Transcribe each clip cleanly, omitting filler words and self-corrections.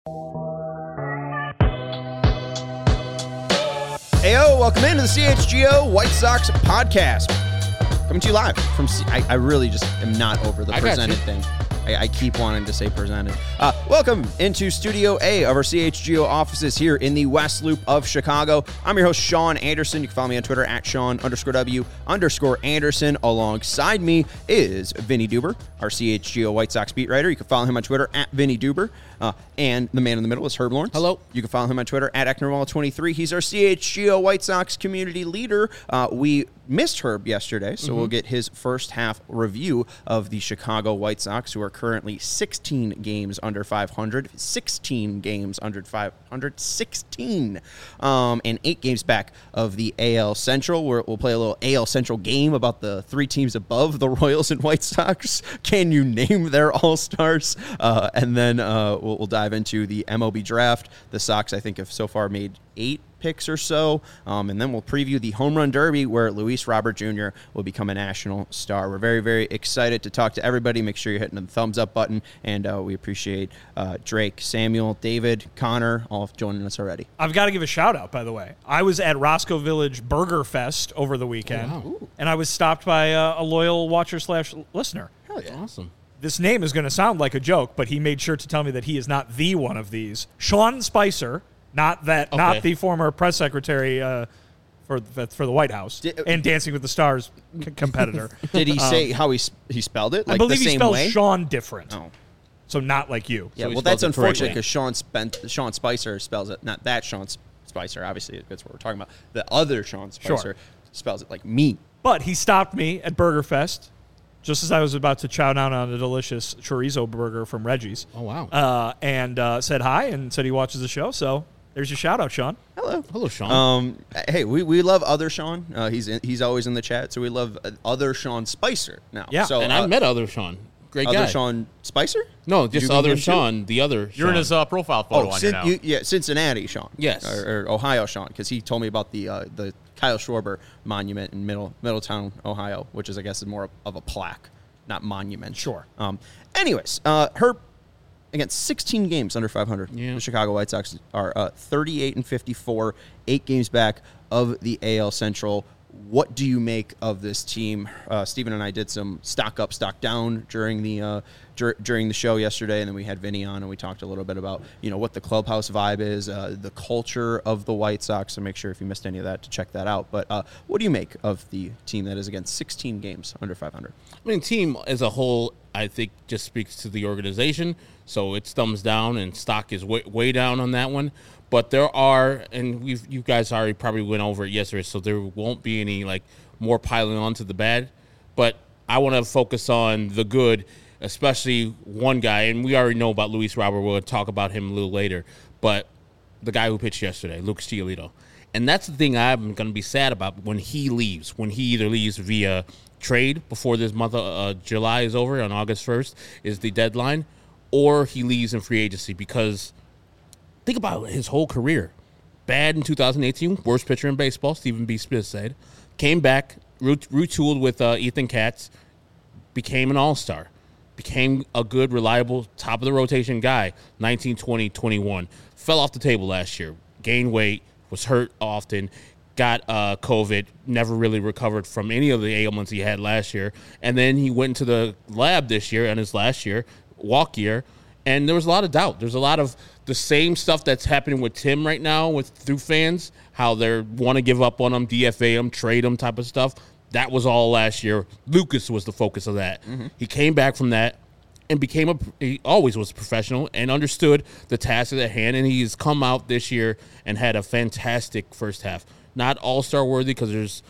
Heyo, welcome into the CHGO White Sox podcast. Coming to you live from I really just am not over the presented thing. I keep wanting to say presented. Welcome into Studio A of our CHGO offices here in the West Loop of Chicago. I'm your host, Sean Anderson. You can follow me on Twitter at Sean_W_Anderson. Alongside me is Vinny Duber, our CHGO White Sox beat writer. You can follow him on Twitter at Vinny Duber. And the man in the middle is Herb Lawrence. Hello. You can follow him on Twitter at Ecknerwall23. He's our CHGO White Sox community leader. We missed Herb yesterday, so we'll get his first half review of the Chicago White Sox, who are currently 16 games under 500. 16 games under 500. 16. And 8 games back of the AL Central. We'll play a little AL Central game about the 3 teams above the Royals and White Sox. Can you name their all-stars? And then we'll dive into the MLB draft. The Sox, I think, have so far made 8 picks or so, and then we'll preview the Home Run Derby, where Luis Robert Jr. will become a national star. We're very, very excited to talk to everybody. Make sure you're hitting the thumbs up button, and we appreciate Drake, Samuel, David, Connor, all joining us already. I've got to give a shout out, by the way. I was at Roscoe Village Burger Fest over the weekend, and I was stopped by a loyal watcher/listener. Hell yeah. Awesome. This name is going to sound like a joke, but he made sure to tell me that he is not the one of these. Sean Spicer, not the former press secretary for the White House and Dancing with the Stars competitor. Did he say how he spelled it? Like I believe the he same spells way? Sean different. Oh. So not like you. Yeah, So he well, that's spells it unfortunate correctly. because Sean Spicer spells it, not that Sean Spicer, obviously, that's what we're talking about. The other Sean Spicer spells it like me. But he stopped me at Burger Fest just as I was about to chow down on a delicious chorizo burger from Reggie's. Oh, wow. And said hi and said he watches the show. So there's your shout out, Sean. Hello, Sean. Hey, we love other Sean. He's always in the chat, so we love other Sean Spicer now. Yeah. So, And I met other Sean. Great guy. other Sean Spicer? No, Did just you meet other him too? Sean. The other Sean. You're in his profile photo on here now. Cincinnati Sean. Yes. Or Ohio Sean, because he told me about the Kyle Schwarber monument in Middletown, Ohio, which is, I guess, is more of a plaque, not monument. Sure. Anyways, Herb, against 16 games under 500. Yeah. The Chicago White Sox are 38-54, 8 games back of the AL Central. What do you make of this team? Steven and I did some stock up, stock down during the show yesterday, and then we had Vinny on, and we talked a little bit about what the clubhouse vibe is, the culture of the White Sox. So make sure if you missed any of that to check that out. But what do you make of the team that is against 16 games under 500? I mean, team as a whole, I think, just speaks to the organization. So it's thumbs down, and stock is way down on that one. But there are, and you guys already probably went over it yesterday, so there won't be any more piling on to the bad. But I want to focus on the good, especially one guy, and we already know about Luis Robert. We'll talk about him a little later. But the guy who pitched yesterday, Lucas Giolito. And that's the thing I'm going to be sad about when he leaves, when he either leaves via trade before this month of July is over, on August 1st is the deadline, or he leaves in free agency, because think about his whole career. Bad in 2018, worst pitcher in baseball, Stephen B. Smith said. Came back, retooled with Ethan Katz, became an all-star, became a good, reliable, top-of-the-rotation guy, 19, 20, 21. Fell off the table last year, gained weight, was hurt often, got COVID, never really recovered from any of the ailments he had last year. And then he went into the lab this year, and his last year, walk year, and there was a lot of doubt. There's a lot of the same stuff that's happening with Tim right now through fans, how they want to give up on him, DFA him, trade him type of stuff. That was all last year. Lucas was the focus of that. Mm-hmm. He came back from that and he always was a professional and understood the task at hand, and he's come out this year and had a fantastic first half. Not all-star worthy because there's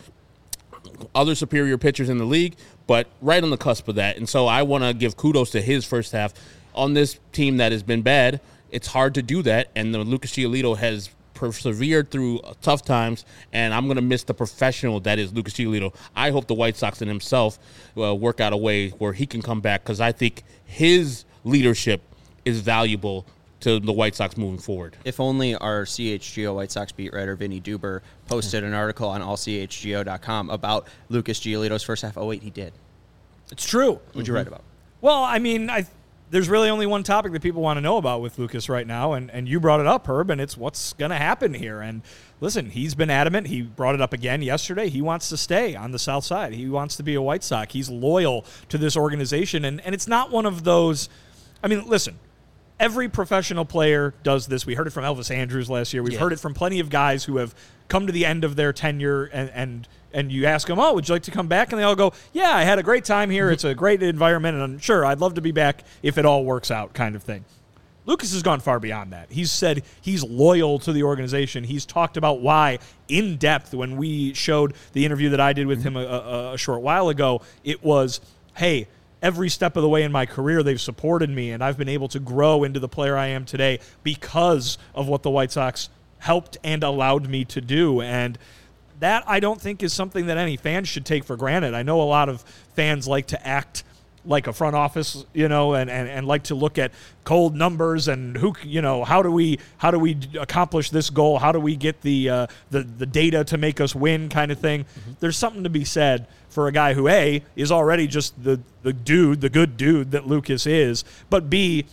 other superior pitchers in the league, but right on the cusp of that. And so I want to give kudos to his first half. On this team that has been bad, it's hard to do that, and the Lucas Giolito has persevered through tough times, and I'm going to miss the professional that is Lucas Giolito. I hope the White Sox and himself work out a way where he can come back, because I think his leadership is valuable to the White Sox moving forward. If only our CHGO White Sox beat writer Vinny Duber posted an article on allchgo.com about Lucas Giolito's first half. Oh, wait, he did. It's true. What'd you write about? Well, I mean, there's really only one topic that people want to know about with Lucas right now, and you brought it up, Herb, and it's what's going to happen here. And listen, he's been adamant. He brought it up again yesterday. He wants to stay on the South Side. He wants to be a White Sox. He's loyal to this organization, and it's not one of those – I mean, listen, every professional player does this. We heard it from Elvis Andrus last year. We've heard it from plenty of guys who have come to the end of their tenure, and you ask them, would you like to come back? And they all go, yeah, I had a great time here. It's a great environment, and I'm sure I'd love to be back if it all works out kind of thing. Lucas has gone far beyond that. He's said he's loyal to the organization. He's talked about why in depth when we showed the interview that I did with him a short while ago. It was, hey, every step of the way in my career, they've supported me, and I've been able to grow into the player I am today because of what the White Sox helped and allowed me to do. And that, I don't think, is something that any fan should take for granted. I know a lot of fans like to act like a front office, and like to look at cold numbers and how do we accomplish this goal? How do we get the data to make us win kind of thing? Mm-hmm. There's something to be said for a guy who A, is already just the good dude that Lucas is, but B,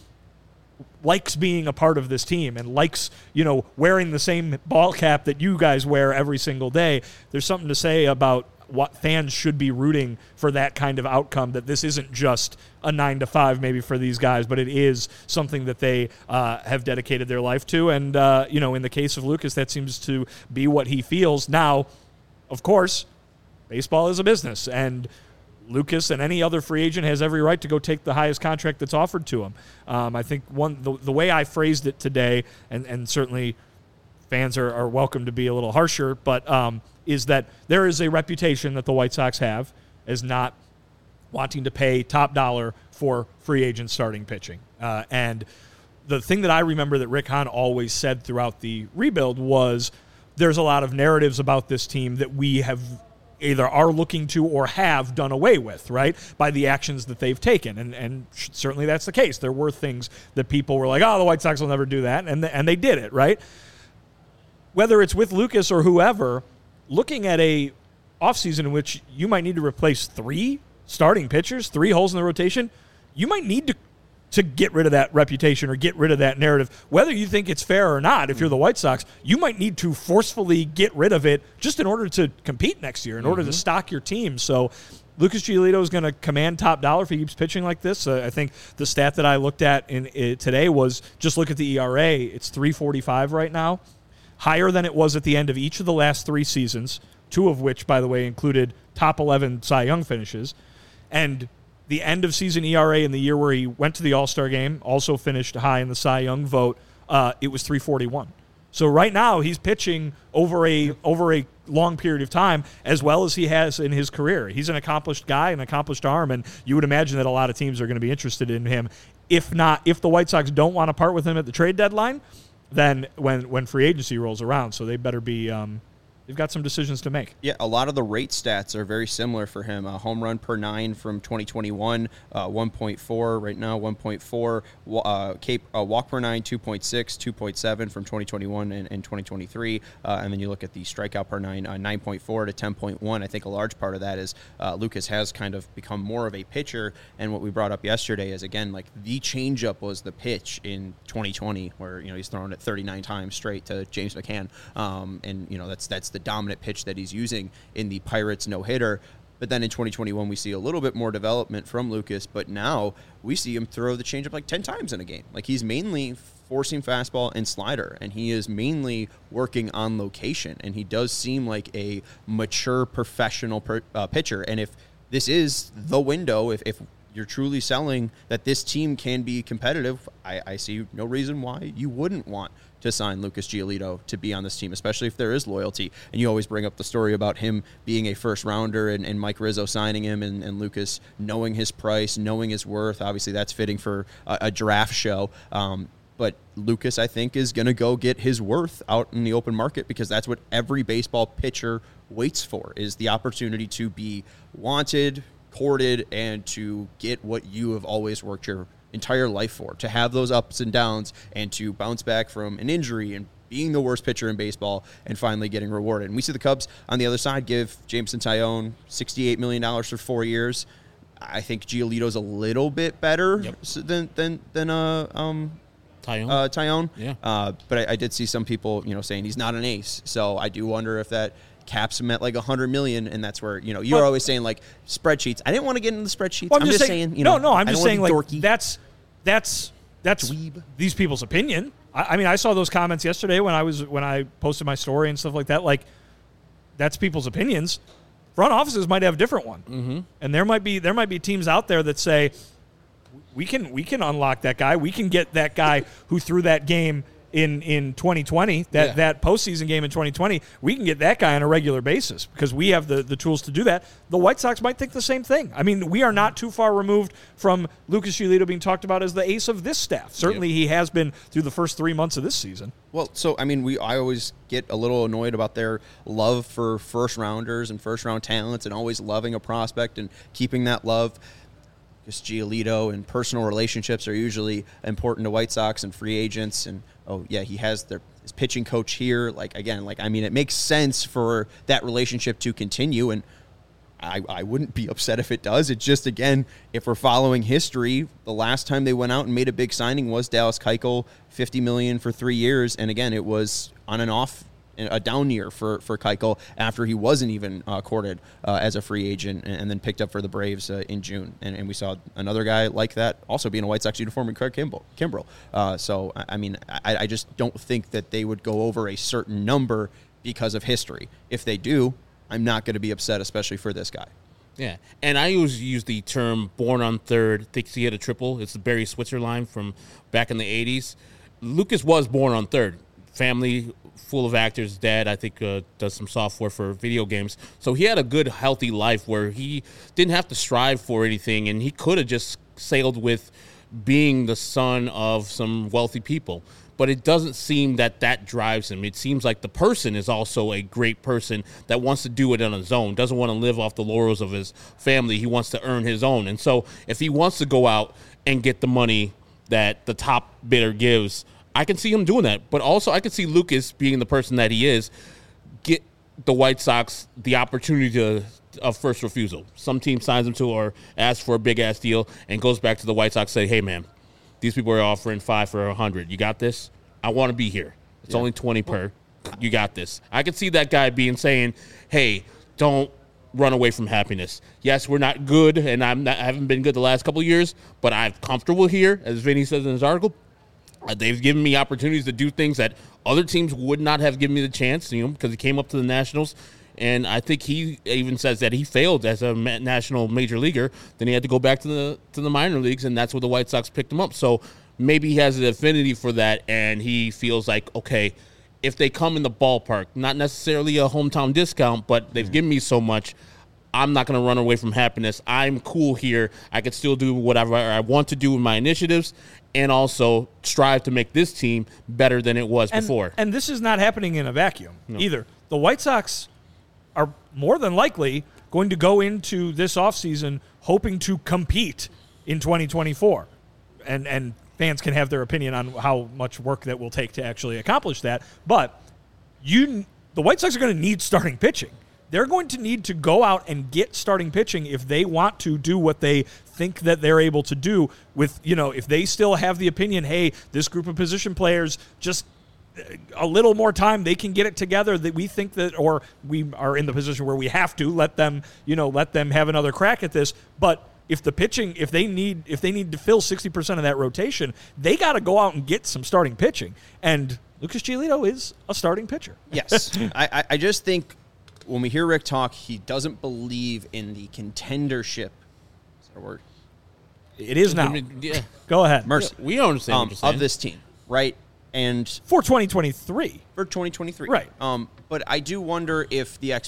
likes being a part of this team and likes, wearing the same ball cap that you guys wear every single day. There's something to say about what fans should be rooting for, that kind of outcome, that this isn't just a 9-to-5 maybe for these guys, but it is something that they have dedicated their life to. And, in the case of Lucas, that seems to be what he feels. Now, of course, baseball is a business, and Lucas and any other free agent has every right to go take the highest contract that's offered to him. I think the way I phrased it today, and certainly fans are welcome to be a little harsher, but is that there is a reputation that the White Sox have as not wanting to pay top dollar for free agent starting pitching. And the thing that I remember that Rick Hahn always said throughout the rebuild was there's a lot of narratives about this team that we have either are looking to or have done away with, right, by the actions that they've taken. And certainly that's the case. There were things that people were like, the White Sox will never do that, and they did it, right? Whether it's with Lucas or whoever, looking at a offseason in which you might need to replace 3 starting pitchers, 3 holes in the rotation, you might need to get rid of that reputation or get rid of that narrative. Whether you think it's fair or not, if you're the White Sox, you might need to forcefully get rid of it just in order to compete next year, in order to stock your team. So Lucas Giolito is going to command top dollar if he keeps pitching like this. I think the stat that I looked at today was just look at the ERA. It's 3.45 right now, higher than it was at the end of each of the last 3 seasons, 2 of which, by the way, included top 11 Cy Young finishes. And the end of season ERA in the year where he went to the All-Star game also finished high in the Cy Young vote. It was 3.41. So right now he's pitching over a long period of time as well as he has in his career. He's an accomplished guy, an accomplished arm, and you would imagine that a lot of teams are going to be interested in him. If the White Sox don't want to part with him at the trade deadline, then when free agency rolls around. So they better be they've got some decisions to make. Yeah, a lot of the rate stats are very similar for him. A home run per 9 from 2021, 1.4 right now, 1.4. Walk per 9, 2.6, 2.7 from 2021 and 2023. And then you look at the strikeout per 9, 9.4 to 10.1. I think a large part of that is Lucas has kind of become more of a pitcher. And what we brought up yesterday is, again, like the changeup was the pitch in 2020 where, he's thrown it 39 times straight to James McCann. And, that's the dominant pitch that he's using in the Pirates no-hitter. But then in 2021, we see a little bit more development from Lucas, but now we see him throw the changeup like 10 times in a game. Like, he's mainly forcing fastball and slider, and he is mainly working on location, and he does seem like a mature professional pitcher. And if this is the window, if you're truly selling that this team can be competitive, I see no reason why you wouldn't want to sign Lucas Giolito to be on this team, especially if there is loyalty. And you always bring up the story about him being a first rounder and Mike Rizzo signing him and Lucas knowing his price, knowing his worth. Obviously, that's fitting for a draft show. But Lucas, I think, is going to go get his worth out in the open market because that's what every baseball pitcher waits for, is the opportunity to be wanted, courted, and to get what you have always worked your entire life for, to have those ups and downs and to bounce back from an injury and being the worst pitcher in baseball and finally getting rewarded. And we see the Cubs on the other side give Jameson Taillon $68 million for 4 years. I think Giolito's a little bit better than Taillon. Yeah. But I did see some people, saying he's not an ace. So I do wonder if that caps him at like $100 million, and that's where you're always saying like spreadsheets. I didn't want to get into the spreadsheets. Well, I'm just saying. I'm just saying like dorky. that's Dweeb. These people's opinion. I mean, I saw those comments yesterday when I posted my story and stuff like that. Like, that's people's opinions. Front offices might have a different one, and there might be teams out there that say we can unlock that guy. We can get that guy who threw that game in 2020, that postseason game in 2020. We can get that guy on a regular basis because we have the tools to do that. The White Sox might think the same thing. I mean, we are not too far removed from Lucas Giolito being talked about as the ace of this staff. Certainly, he has been through the first 3 months of this season. Well, so I mean, I always get a little annoyed about their love for first rounders and first round talents, and always loving a prospect and keeping that love. Because Giolito and personal relationships are usually important to White Sox and free agents, and he has his pitching coach here. It makes sense for that relationship to continue, and I wouldn't be upset if it does. It's just, again, if we're following history, the last time they went out and made a big signing was Dallas Keuchel, $50 million for 3 years, and again, it was on and off. A down year for Keuchel after he wasn't even courted as a free agent and then picked up for the Braves in June. And we saw another guy like that also be in a White Sox uniform in Craig Kimbrel. So, I mean, I just don't think that they would go over a certain number because of history. If they do, I'm not going to be upset, especially for this guy. Yeah, and I always use the term born on third, thinks he hit a triple. It's the Barry Switzer line from back in the 80s. Lucas was born on third. Family full of actors. Dad, I think, does some software for video games. So he had a good, healthy life where he didn't have to strive for anything, and he could have just sailed with being the son of some wealthy people. But it doesn't seem that drives him. It seems like the person is also a great person that wants to do it on his own, doesn't want to live off the laurels of his family. He wants to earn his own. And so if he wants to go out and get the money that the top bidder gives, I can see him doing that. But also I can see Lucas, being the person that he is, get the White Sox the opportunity of first refusal. Some team signs him to or asks for a big-ass deal and goes back to the White Sox, say, hey, man, these people are offering 5 for 100. You got this? I want to be here. It's only 20 per. You got this. I can see that guy saying, hey, don't run away from happiness. Yes, we're not good, and I haven't been good the last couple of years, but I'm comfortable here, as Vinny says in his article. They've given me opportunities to do things that other teams would not have given me the chance, because he came up to the Nationals. And I think he even says that he failed as a national major leaguer. Then he had to go back to the minor leagues, and that's where the White Sox picked him up. So maybe he has an affinity for that, and he feels like, okay, if they come in the ballpark, not necessarily a hometown discount, but they've given me so much, I'm not going to run away from happiness. I'm cool here. I can still do whatever I want to do with my initiatives and also strive to make this team better than it was before. And this is not happening in a vacuum either. The White Sox are more than likely going to go into this offseason hoping to compete in 2024. And fans can have their opinion on how much work that will take to actually accomplish that. But the White Sox are going to need starting pitching. They're going to need to go out and get starting pitching if they want to do what they think that they're able to do with, if they still have the opinion, hey, this group of position players, just a little more time, they can get it together, that we think that, or we are in the position where we have to let them have another crack at this. But if the pitching, if they need to fill 60% of that rotation, they got to go out and get some starting pitching. And Lucas Giolito is a starting pitcher. Yes. I just think, when we hear Rick talk, he doesn't believe in the contendership. Is that a word? It is now. Yeah. Go ahead. Mercy. We don't understand what you're saying. Of this team, right? And for 2023. For 2023. Right. But I do wonder if the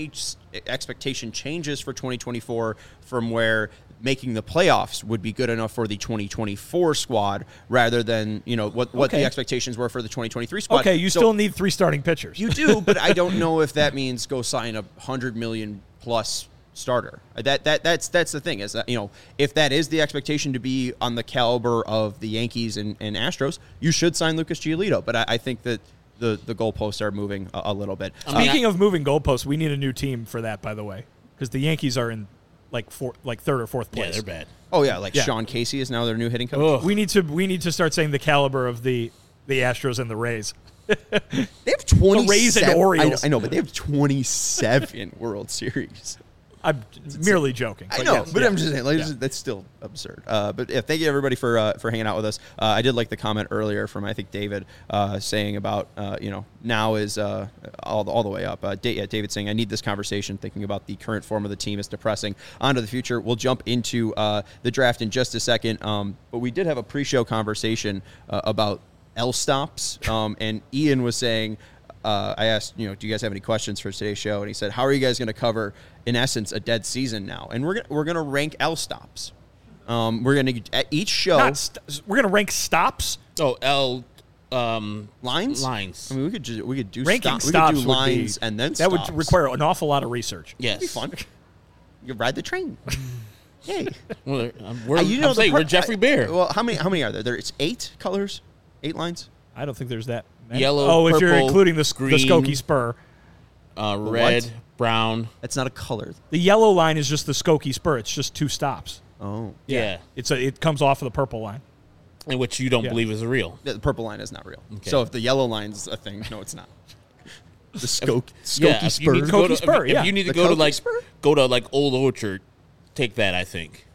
expectation changes for 2024 from where making the playoffs would be good enough for the 2024 squad rather than, what the expectations were for the 2023 squad. Okay, you still need 3 starting pitchers. You do, but I don't know if that means go sign a $100 million plus starter. That's the thing, is that, if that is the expectation to be on the caliber of the Yankees and Astros, you should sign Lucas Giolito. But I think that the goalposts are moving a little bit. Speaking of moving goalposts, we need a new team for that, by the way, because the Yankees are in third or fourth place. Yeah, they're bad. Oh yeah, Sean Casey is now their new hitting coach. Ugh. We need to start saying the caliber of the Astros and the Rays. They have 27. The Rays and Orioles. I know, but they have 27 World Series. I'm merely joking. I know, but I'm just saying, that's still absurd. But yeah, thank you everybody for hanging out with us. I did like the comment earlier from I think David saying about now is all the way up. David saying I need this conversation. Thinking about the current form of the team is depressing. On to the future. We'll jump into the draft in just a second. But we did have a pre-show conversation about L stops, and Ian was saying. I asked, do you guys have any questions for today's show? And he said, how are you guys going to cover, in essence, a dead season now? And we're going to rank L stops. We're going to at each show. We're going to rank stops. Oh, L lines. Lines. I mean, we could do ranking stops. We could do lines and then that stops. would require an awful lot of research. Yes, it'd be fun. You could ride the train. Hey, well, we're Jeffrey Bear. Well, how many are there? It's 8 colors, 8 lines. I don't think there's that many. Yellow, if purple, you're including the green, Skokie Spur. Red, brown. That's not a color. The yellow line is just the Skokie Spur. It's just 2 stops. Oh. Yeah. It comes off of the purple line. In which you don't believe is real. The purple line is not real. Okay. So if the yellow line's a thing, no, it's not. The Skokie Spur. If you need to go to Old Orchard, take that, I think.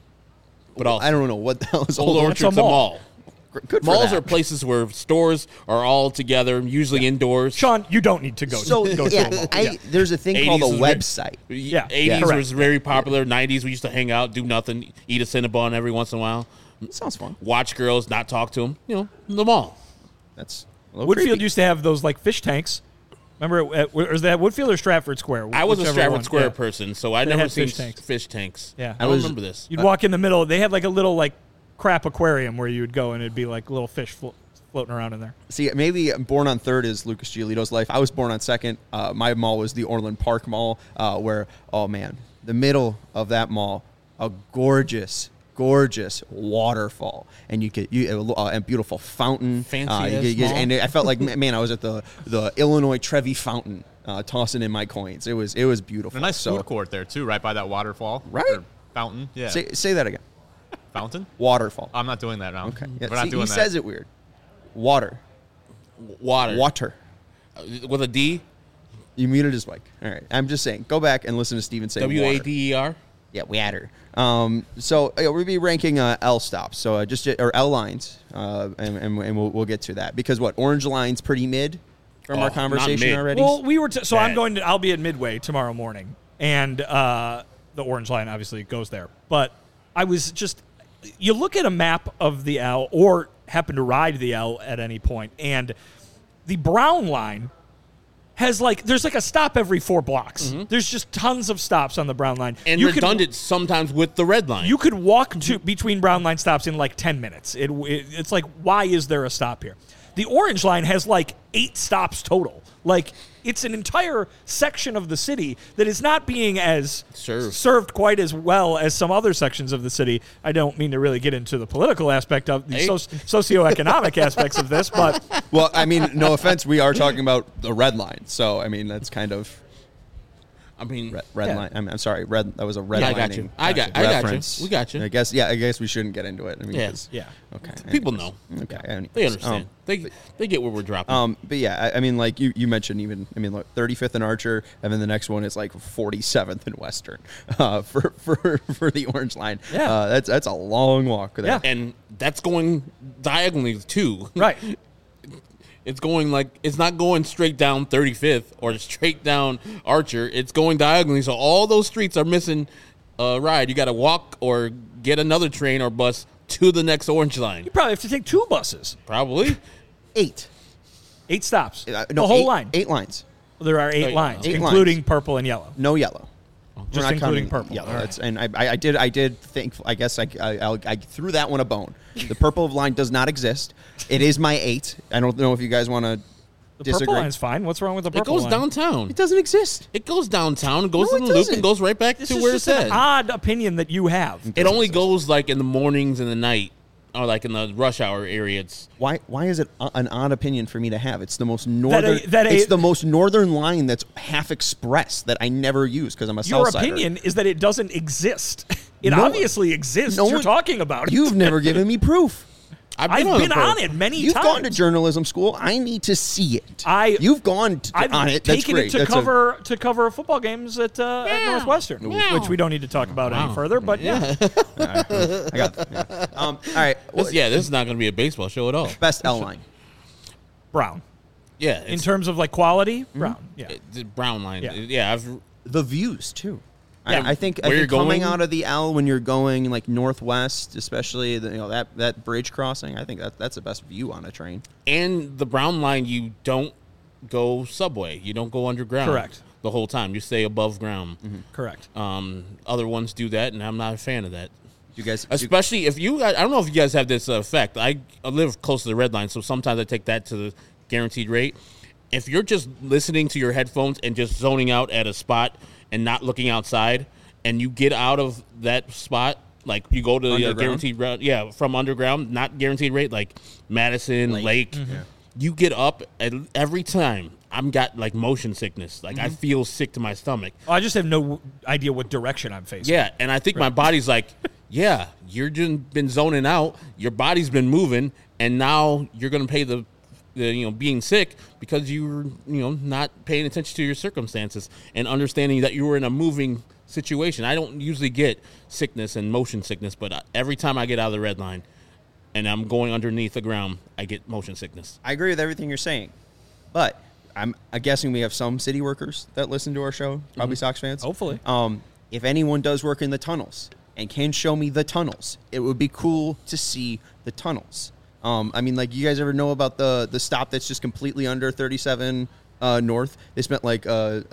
But I don't know what the hell is Old Orchard's a mall. Good for Malls that. are places where stores are all together, usually indoors. Sean, you don't need to go. So to a mall. There's a thing called a website. 80s was very popular. 90s we used to hang out, do nothing, eat a Cinnabon every once in a while. That sounds fun. Watch girls, not talk to them. The mall. That's Woodfield used to have those fish tanks. Remember, was that Woodfield or Stratford Square? I was a Stratford Square person, so I never seen fish tanks. Yeah, I don't remember this. You'd walk in the middle. They had a little crap aquarium where you would go, and it'd be little fish floating around in there. See, maybe born on 3rd is Lucas Giolito's life. I was born on 2nd. My mall was the Orland Park Mall, where, oh man, the middle of that mall, a gorgeous waterfall, and you get a beautiful fountain. Fancy and I felt like, man, I was at the Illinois Trevi Fountain, tossing in my coins. It was beautiful. A nice food court there too, right by that waterfall. Right. Or fountain. Yeah. Say that again. Fountain? Waterfall. I'm not doing that now. Okay. We're not doing he that. says it weird. Water. With a D? You muted his mic. All right. I'm just saying, go back and listen to Steven say WADER? Yeah, water. So we'll be ranking L stops. So or L lines, and we'll get to that because orange line's pretty mid from our conversation already. Well, I'll be at Midway tomorrow morning, and the orange line obviously goes there. But I was you look at a map of the L or happen to ride the L at any point, and the brown line has there's a stop every 4 blocks. Mm-hmm. There's just tons of stops on the brown line. And redundant sometimes with the red line. You could walk between brown line stops in 10 minutes. It's why is there a stop here? The orange line has 8 stops total. It's an entire section of the city that is not being as served quite as well as some other sections of the city. I don't mean to really get into the political aspect of the socioeconomic aspects of this, but... Well, I mean, no offense, we are talking about the red line. So, I mean, that's kind of... red line. I'm sorry. That was a red line. I got you. We got you. I guess we shouldn't get into it. I mean, okay. People know. Okay. They understand. They get where we're dropping. But yeah, I mean, you mentioned even. I mean, look, 35th in Archer, and then the next one is 47th in Western for the orange line. Yeah. That's a long walk there. Yeah. And that's going diagonally too. Right. It's going it's not going straight down 35th or straight down Archer. It's going diagonally. So all those streets are missing a ride. You got to walk or get another train or bus to the next orange line. You probably have to take 2 buses. Probably. 8 stops. The whole line. 8 lines. Well, there are 8 lines, 8 including lines. Purple and yellow. No yellow. Just including purple. Yellow. Right. And I did think. I guess I threw that one a bone. The purple line does not exist. It is my 8. I don't know if you guys want to disagree. The purple line's fine. What's wrong with the purple line? It goes downtown. It doesn't exist. It goes downtown, goes to the loop, and goes right back to where it said. This is an odd opinion that you have. It only goes in the mornings and the night or like in the rush hour area, it's Why is it an odd opinion for me to have? It's the most northern. That it's the most northern line that's half express that I never use because I'm a Your Southsider. opinion is that it doesn't exist. It No- obviously exists. no You're one- talking about it. You've never given me proof. I've been on it many You've times. gone to journalism school. I need to see it. I- You've gone I've on it. That's taken great. it to That's cover football games at Northwestern, which we don't need to talk about any further. But yeah, I got. Yeah. All right. this is not going to be a baseball show at all. Best L line. Brown. Yeah, In terms of like quality, Brown. Yeah. the brown line. Yeah. Yeah, The views too. Yeah. I think Where you're coming going? out of the L when you're going like northwest, especially that bridge crossing. I think that's the best view on a train. and the brown line, you don't go subway. You don't go underground. Correct. The whole time, you stay above ground. Correct. Other ones do that, and I'm not a fan of that. You guys, Especially if I don't know if you guys have this effect. I live close to the red line, so sometimes I take that to the guaranteed rate. If you're just listening to your headphones and just zoning out at a spot and not looking outside, and you get out of that spot, like you go to the Underground? guaranteed route, from underground, not guaranteed rate, like Madison, Lake, you get up, and every time I'm got like motion sickness. Like I feel sick to my stomach. I just have no idea what direction I'm facing. Yeah, and I think my body's like, yeah, you're just been zoning out. Your body's been moving, and now you're going to pay the being sick because you're not paying attention to your circumstances and understanding that you were in a moving situation. I don't usually get sickness and motion sickness, but every time I get out of the red line and I'm going underneath the ground, I get motion sickness. I agree with everything you're saying, but I'm guessing we have some city workers that listen to our show, probably Sox fans. Hopefully. If anyone does work in the tunnels and can show me the tunnels, it would be cool to see the tunnels. I mean, like, you guys ever know about the stop that's just completely under 37 North? They spent like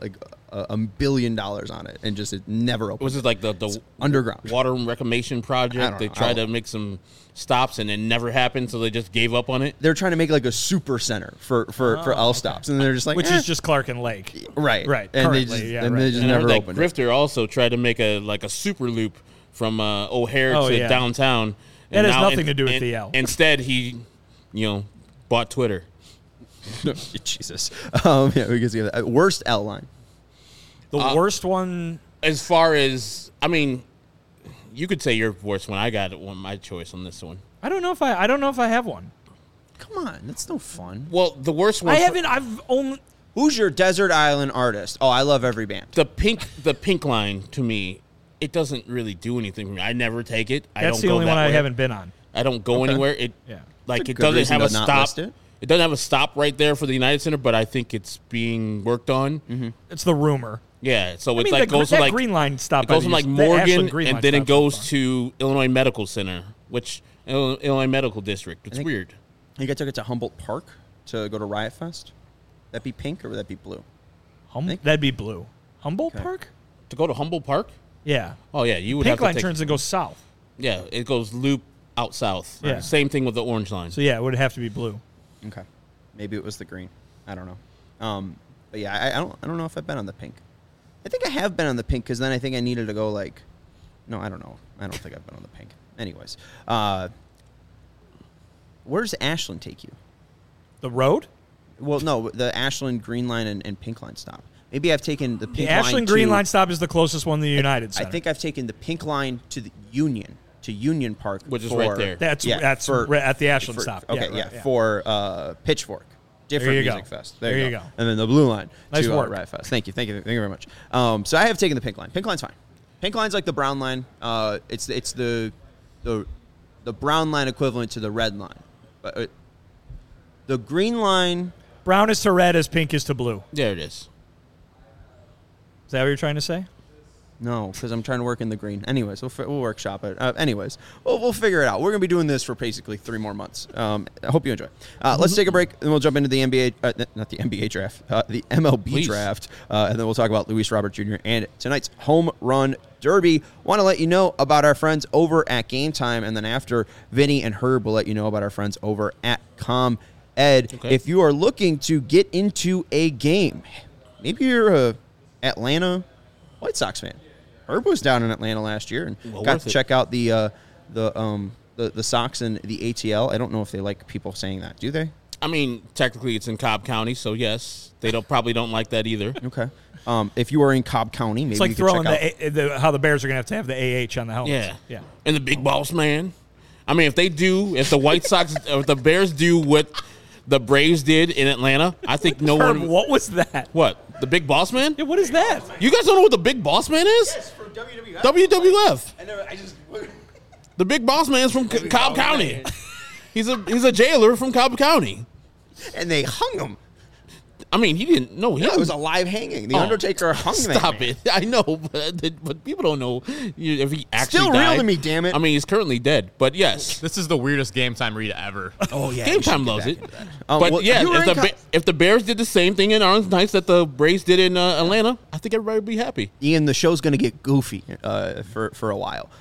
$1 billion on it and just it never opened. Was it like the underground water reclamation I project? don't They know. tried to make some stops and it never happened, so they just gave up on it. They're trying to make like a super center for L stops, and they're just like, Which is just Clark and Lake. right, Right, and they currently, just, yeah, and right. they just And I heard never that opened it. Grifter also tried to make a super loop from O'Hare to yeah. downtown. That And has now- nothing to do with the L. Instead, he, bought Twitter. Jesus, yeah, we can see that. Worst L line. The worst one. As far as, I mean, you could say your worst one. I got my choice on this one. I don't know if I have one. Come on, that's no fun. Well, the worst one. I haven't. I've only. Who's your desert island artist? Oh, I love every band. The pink line to me, it doesn't really do anything for me. I never take it. I That's don't the go only that one I way. haven't been on. I don't go anywhere. It Yeah. like That's a it good doesn't reason have a to not stop. list it. It doesn't have a stop right there for the United Center, but I think it's being worked on. It's the rumor. Yeah, so I it mean, like goes from that like green line stop. it goes from like Morgan, and then it goes to. to Illinois Medical Center, which Illinois Medical District. It's think- weird. You guys took it to Humboldt Park to go to Riot Fest. That be pink or would that be blue? That'd be blue. Humboldt Okay. Park. To go to Humboldt Park? Yeah. Oh yeah, you would Pink have to line take. turns and goes south. Yeah, it goes loop out south. Yeah. Same thing with the orange line. So yeah, it would have to be blue. Okay, maybe it was the green. I don't know. But yeah, I don't know if I've been on the pink. I think I have been on the pink because then I think I needed to go like. No, I don't know. I don't think I've been on the pink. Anyways, where does Ashland take you? The road. Well, no, the Ashland Green Line and Pink Line stop. Maybe I've taken the The Pink Line Ashland Green to- Line stop is the closest one to the United Center. I think I've taken the Pink Line to the Union Park, Which is for- right there. That's for- right at the Ashland for- stop. Okay, Yeah, right, for Pitchfork. Different There you music go. fest. There you go. And then the Blue Line Nice to work. Riot Fest. Thank you very much. So I have taken the Pink Line. Pink Line's fine. Pink Line's like the Brown Line. It's the Brown Line equivalent to the Red Line. But the Green Line. Brown is to red as pink is to blue. There it is. Is that what you're trying to say? No, because I'm trying to work in the green. Anyways, we'll workshop it. Anyways, we'll figure it out. We're going to be doing this for basically 3 more months. I hope you enjoy. Let's take a break, and we'll jump into the NBA, not the NBA draft, the MLB Please. draft, and then we'll talk about Luis Robert Jr. and tonight's home run derby. Want to let you know about our friends over at Game Time, and then after, Vinny and Herb will let you know about our friends over at ComEd. Okay. If you are looking to get into a game, maybe you're a Atlanta White Sox fan. Herb was down in Atlanta last year and Well, got worth to it. check out the the Sox and the ATL. I don't know if they like people saying that. Do they? I mean, technically it's in Cobb County, so yes, they probably don't like that either. Okay. If you are in Cobb County, maybe it's like you could throwing check out how the Bears are going to have the AH on the helmet. Yeah. And the big boss man. I mean, if the White Sox, if the Bears do what the Braves did in Atlanta, I think no Herb, one. what was that? What? The big boss man? Yeah, what is that? You guys don't know what the big boss man is? Yes, from WWF. WWF. I just. The big boss man is from Cobb County. He's a jailer from Cobb County. And they hung him. I mean, he didn't know him. Yeah, it was a live hanging. The Undertaker hung him. Stop it. I know, but people don't know if he actually Still died. real to me, damn it. I mean, he's currently dead, but yes. This is the weirdest Game Time read ever. Oh, yeah. Game Time loves it. But well, yeah, you were if the Bears did the same thing in Arlington Heights that the Braves did in Atlanta, I think everybody would be happy. Ian, the show's going to get goofy for a while.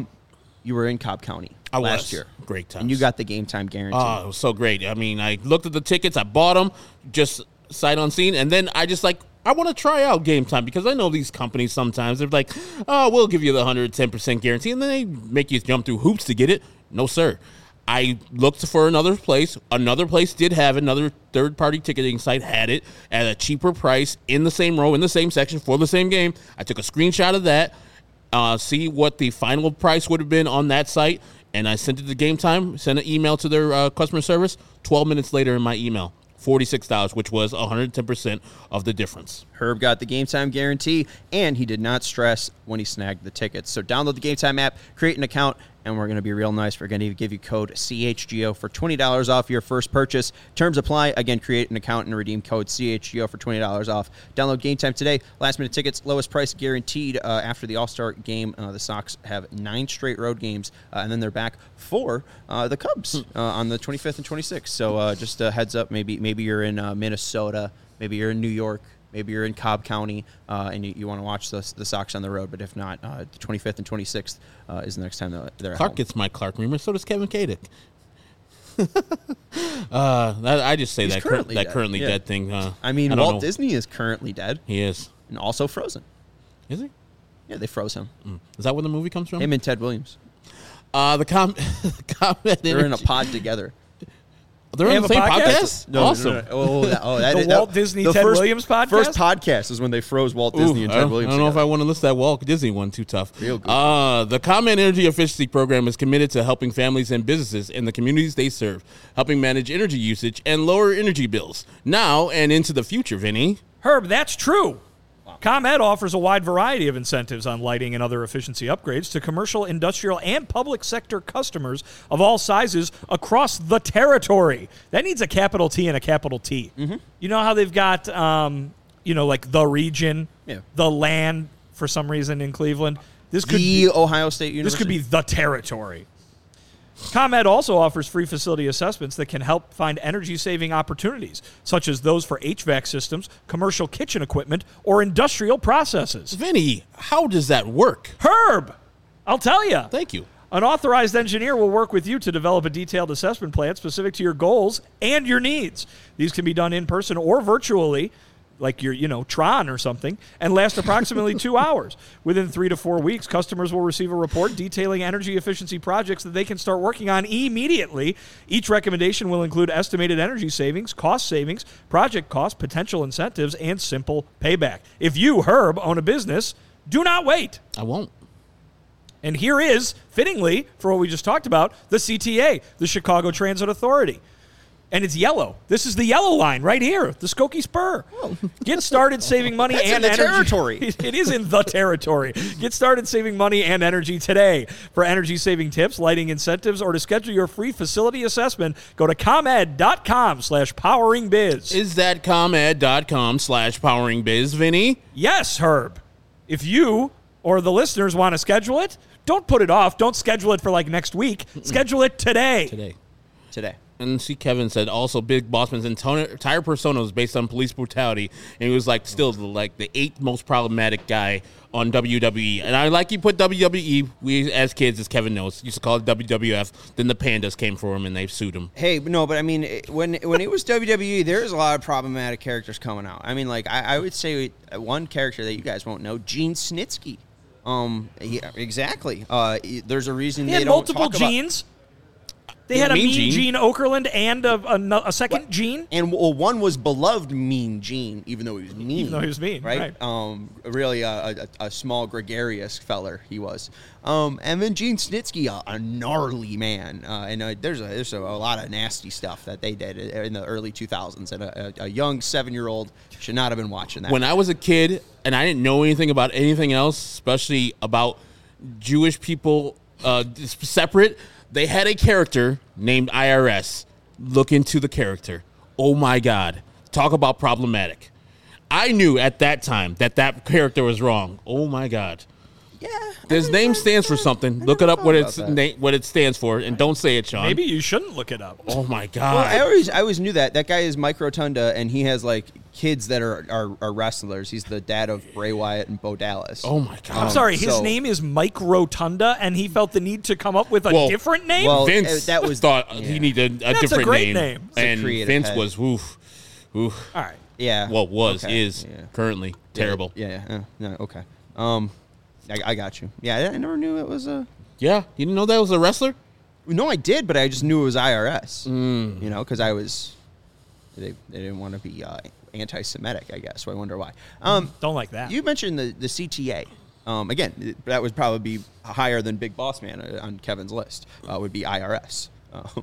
You were in Cobb County last year. Great times. And you got the Game Time guarantee. Oh, it was so great. I mean, I looked at the tickets, I bought them, just sight unseen, and then I just I want to try out Game Time because I know these companies sometimes, they're like, oh, we'll give you the 110% guarantee, and then they make you jump through hoops to get it. No, sir. I looked for another place. Another place did have another third-party ticketing site, had it at a cheaper price in the same row, in the same section for the same game. I took a screenshot of that, see what the final price would have been on that site, and I sent it to Game Time, sent an email to their customer service. 12 minutes later in my email, $46, which was 110% of the difference. Herb got the Game Time guarantee, and he did not stress when he snagged the tickets. So download the Game Time app, create an account, and we're going to be real nice. We're going to give you code CHGO for $20 off your first purchase. Terms apply. Again, create an account and redeem code CHGO for $20 off. Download Game Time today. Last-minute tickets, lowest price guaranteed. After the All-Star game, the Sox have 9 straight road games, and then they're back for the Cubs on the 25th and 26th. So just a heads up, maybe you're in Minnesota, maybe you're in New York, maybe you're in Cobb County, and you want to watch the Sox on the road. But if not, the 25th and 26th is the next time they're at Clark home. gets my Clark Reamer, so does Kevin Kadick. I just say He's that currently dead. currently Yeah. dead thing. I mean, I don't Walt know. Disney is currently dead He is. and also frozen. Is he? Yeah, they froze him. Is that where the movie comes from? Him and Ted Williams. The comment. They're in a pod together. They're They on the have same a podcast? podcast. No, Awesome. The Walt Disney Ted Williams podcast? First podcast is when they froze Walt Disney and I Ted don't, Williams. I don't know if I together. want to list that Walt Disney one. Too tough. Real good. The ComEd Energy Efficiency Program is committed to helping families and businesses in the communities they serve, helping manage energy usage and lower energy bills now and into the future, Vinny. Herb, that's true. ComEd offers a wide variety of incentives on lighting and other efficiency upgrades to commercial, industrial, and public sector customers of all sizes across the territory. That needs a capital T and a capital T. Mm-hmm. You know how they've got, like the region, the land for some reason in Cleveland? This could be Ohio State University. This could be the territory. ComEd also offers free facility assessments that can help find energy-saving opportunities, such as those for HVAC systems, commercial kitchen equipment, or industrial processes. Vinny, how does that work? Herb, I'll tell you. Thank you. An authorized engineer will work with you to develop a detailed assessment plan specific to your goals and your needs. These can be done in person or virtually, like your, Tron or something, and last approximately 2 hours. Within 3 to 4 weeks, customers will receive a report detailing energy efficiency projects that they can start working on immediately. Each recommendation will include estimated energy savings, project costs, potential incentives, and simple payback. If you, Herb, own a business, do not wait. I won't. And here is, fittingly, for what we just talked about, the CTA, the Chicago Transit Authority. And it's yellow. This is the yellow line right here, the Skokie Spur. Get started saving money That's and in the energy. territory. It is in the territory. Get started saving money and energy today. For energy-saving tips, lighting incentives, or to schedule your free facility assessment, go to ComEd.com/poweringbiz. Is that ComEd.com/poweringbiz, Vinny? Yes, Herb. If you or the listeners want to schedule it, don't put it off. Don't schedule it for like next week. Schedule it today. Today. And see, Kevin said also Big Bossman's entire persona was based on police brutality, and he was still the 8th most problematic guy on WWE. And I like you put WWE. We as kids, as Kevin knows, used to call it WWF. Then the Pandas came for him and they sued him. Hey, no, but I mean, when it was WWE, there's a lot of problematic characters coming out. I mean, I would say one character that you guys won't know, Gene Snitsky. Yeah, exactly. There's a reason He they had don't multiple talk about. genes. They had a Mean Mean Gene. Gene Okerlund and a second Gene? And one was beloved Mean Gene, even though he was mean. Even though he was mean, right. Really a small, gregarious feller he was. And then Gene Snitsky, a gnarly man. And there's a lot of nasty stuff that they did in the early 2000s. And a young 7-year-old should not have been watching that. When I was a kid and I didn't know anything about anything else, especially about Jewish people separate, they had a character named IRS. Look into the character. Oh, my God. Talk about problematic. I knew at that time that character was wrong. Oh, my God. Yeah. His name stands for something. Look it up what it stands for, and don't say it, Sean. Maybe you shouldn't look it up. Oh, my God. Well, I always knew that. That guy is Mike Rotunda, and he has, like, kids that are wrestlers. He's the dad of Bray Wyatt and Bo Dallas. Oh, my God. I'm sorry, his name is Mike Rotunda, and he felt the need to come up with a different name? Well, Vince thought he needed a different great name. It's And Vince head. was, oof. All right. Yeah. Well, Okay. is currently terrible. Yeah. No, okay. I got you. Yeah, I never knew it was a... Yeah, you didn't know that was a wrestler? No, I did, but I just knew it was IRS. You know, because I was... They didn't want to be anti-Semitic, I guess, so I wonder why. Don't like that. You mentioned the CTA. Again, that would probably be higher than Big Boss Man on Kevin's list, would be IRS.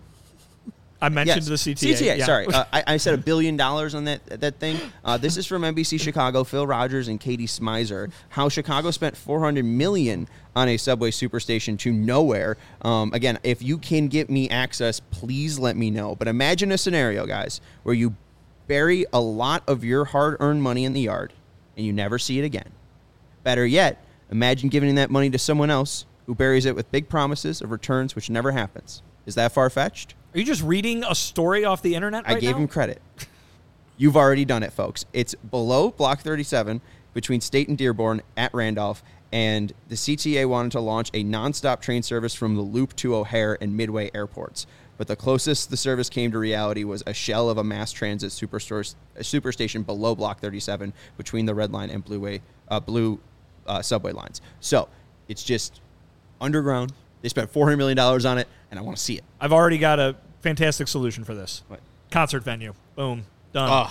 I mentioned the CTA. CTA, yeah. sorry. I said $1 billion on that thing. This is from NBC Chicago, Phil Rogers and Katie Smizer. How Chicago spent $400 million on a subway superstation to nowhere. Again, if you can get me access, please let me know. But imagine a scenario, guys, where you bury a lot of your hard-earned money in the yard and you never see it again. Better yet, imagine giving that money to someone else who buries it with big promises of returns which never happens. Is that far-fetched? Are you just reading a story off the internet right I gave now? him credit. You've already done it, folks. It's below Block 37 between State and Dearborn at Randolph, and the CTA wanted to launch a nonstop train service from the Loop to O'Hare and Midway airports. But the closest the service came to reality was a shell of a mass transit superstation below Block 37 between the Red Line and Blue subway lines. So it's just underground. They spent $400 million on it, and I want to see it. I've already got a fantastic solution for this. What? Concert venue. Boom. Done.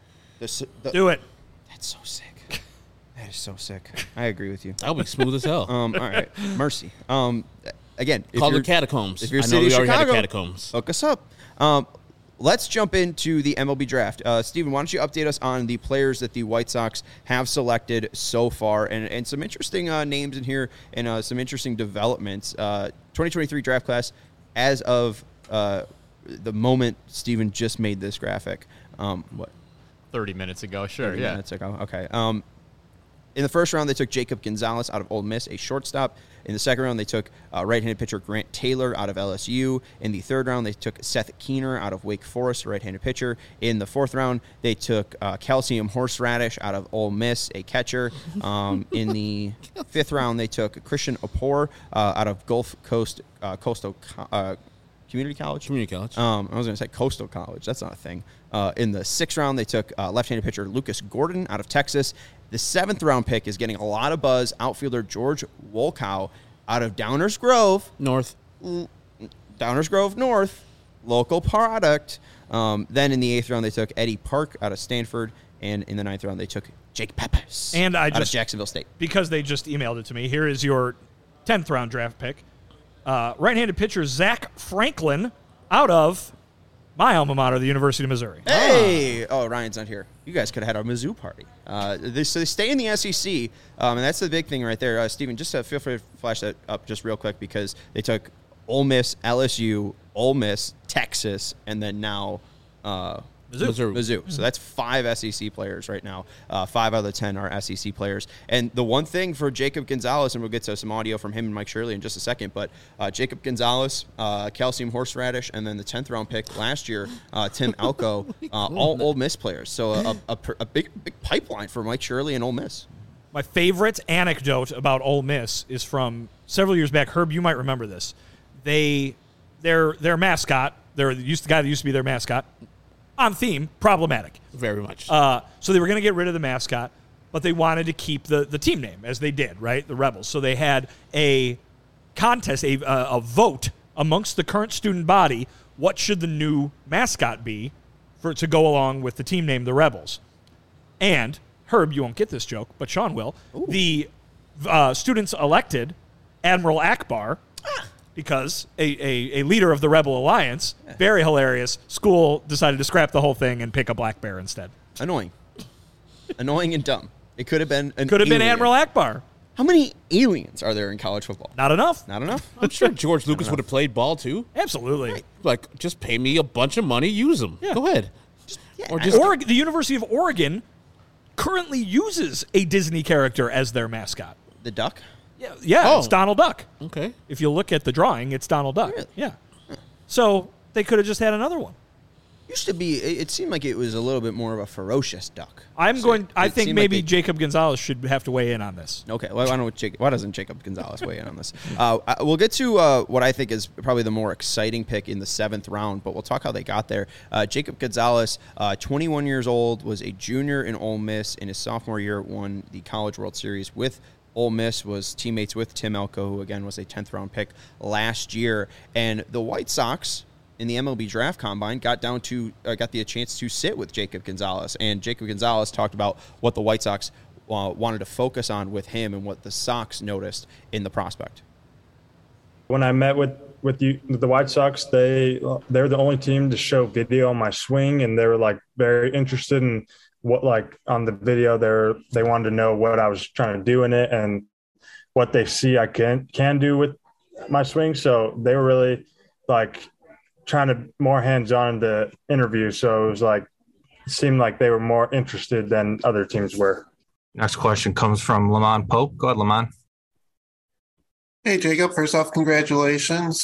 Do it. That's so sick. That is so sick. I agree with you. That'll be smooth as hell. All right. Mercy. Again, Call the Catacombs. If you're I know City we of already had Chicago, the Catacombs. hook us up. Let's jump into the MLB draft. Steven, why don't you update us on the players that the White Sox have selected so far, and some interesting names in here and some interesting developments. 2023 draft class as of the moment Steven just made this graphic. What? 30 minutes ago, sure, 30 yeah. minutes ago. Okay. In the first round, they took Jacob Gonzalez out of Ole Miss, a shortstop. In the second round, they took right-handed pitcher Grant Taylor out of LSU. In the third round, they took Seth Keener out of Wake Forest, a right-handed pitcher. In the fourth round, they took Calcium Horseradish out of Ole Miss, a catcher. In the fifth round, they took Christian Opor out of Gulf Coast Coastal Community College. Community College. I was going to say Coastal College. That's not a thing. In the sixth round, they took left-handed pitcher Lucas Gordon out of Texas. The seventh round pick is getting a lot of buzz. Outfielder George Wolkow out of Downers Grove. Downers Grove North. Local product. Then in the eighth round, they took Eddie Park out of Stanford. And in the ninth round, they took Jake Peppers out of Jacksonville State. Because they just emailed it to me, here is your 10th round draft pick. Right-handed pitcher Zach Franklin out of my alma mater, the University of Missouri. Hey! Oh, Ryan's not here. You guys could have had a Mizzou party. So they stay in the SEC, and that's the big thing right there. Steven, just feel free to flash that up just real quick because they took Ole Miss, LSU, Ole Miss, Texas, and then now Mizzou. So that's 5 SEC players right now. 5 out of the 10 are SEC players. And the one thing for Jacob Gonzalez, and we'll get to some audio from him and Mike Shirley in just a second, but Jacob Gonzalez, Calcium Horseradish, and then the 10th round pick last year, Tim Alco, all Ole Miss players. So a big pipeline for Mike Shirley and Ole Miss. My favorite anecdote about Ole Miss is from several years back. Herb, you might remember this. Their mascot, the guy that used to be their mascot, on theme, problematic. Very much. So they were going to get rid of the mascot, but they wanted to keep the team name, as they did, right? The Rebels. So they had a contest, a vote amongst the current student body, what should the new mascot be to go along with the team name, the Rebels? And, Herb, you won't get this joke, but Sean will. Ooh. The students elected Admiral Akbar because a leader of the Rebel Alliance, very hilarious, school decided to scrap the whole thing and pick a black bear instead. Annoying. Annoying and dumb. It could have been been Admiral Akbar. How many aliens are there in college football? Not enough. Not enough? I'm sure George Lucas would have played ball, too. Absolutely. Right. Like, just pay me a bunch of money, use them. Yeah. Go ahead. The University of Oregon currently uses a Disney character as their mascot. The duck? Yeah, It's Donald Duck. Okay. If you look at the drawing, it's Donald Duck. Really? Yeah. So they could have just had another one. Used to be, it seemed like it was a little bit more of a ferocious duck. I think maybe Jacob Gonzalez should have to weigh in on this. Okay, well, why doesn't Jacob Gonzalez weigh in on this? We'll get to what I think is probably the more exciting pick in the 7th round, but we'll talk how they got there. Jacob Gonzalez, 21 years old, was a junior in Ole Miss. In his sophomore year, won the College World Series with Ole Miss, was teammates with Tim Elko, who, again, was a 10th round pick last year. And the White Sox, in the MLB Draft Combine, got the chance to sit with Jacob Gonzalez. And Jacob Gonzalez talked about what the White Sox wanted to focus on with him and what the Sox noticed in the prospect. When I met with the White Sox, they're the only team to show video on my swing, and they were like very interested in what, like, on the video they wanted to know what I was trying to do in it and what they see I can do with my swing. So they were really like trying to more hands-on in the interview. So it seemed like they were more interested than other teams were. Next question comes from Lamont Pope. Go ahead, Lamont. Hey, Jacob. First off, congratulations.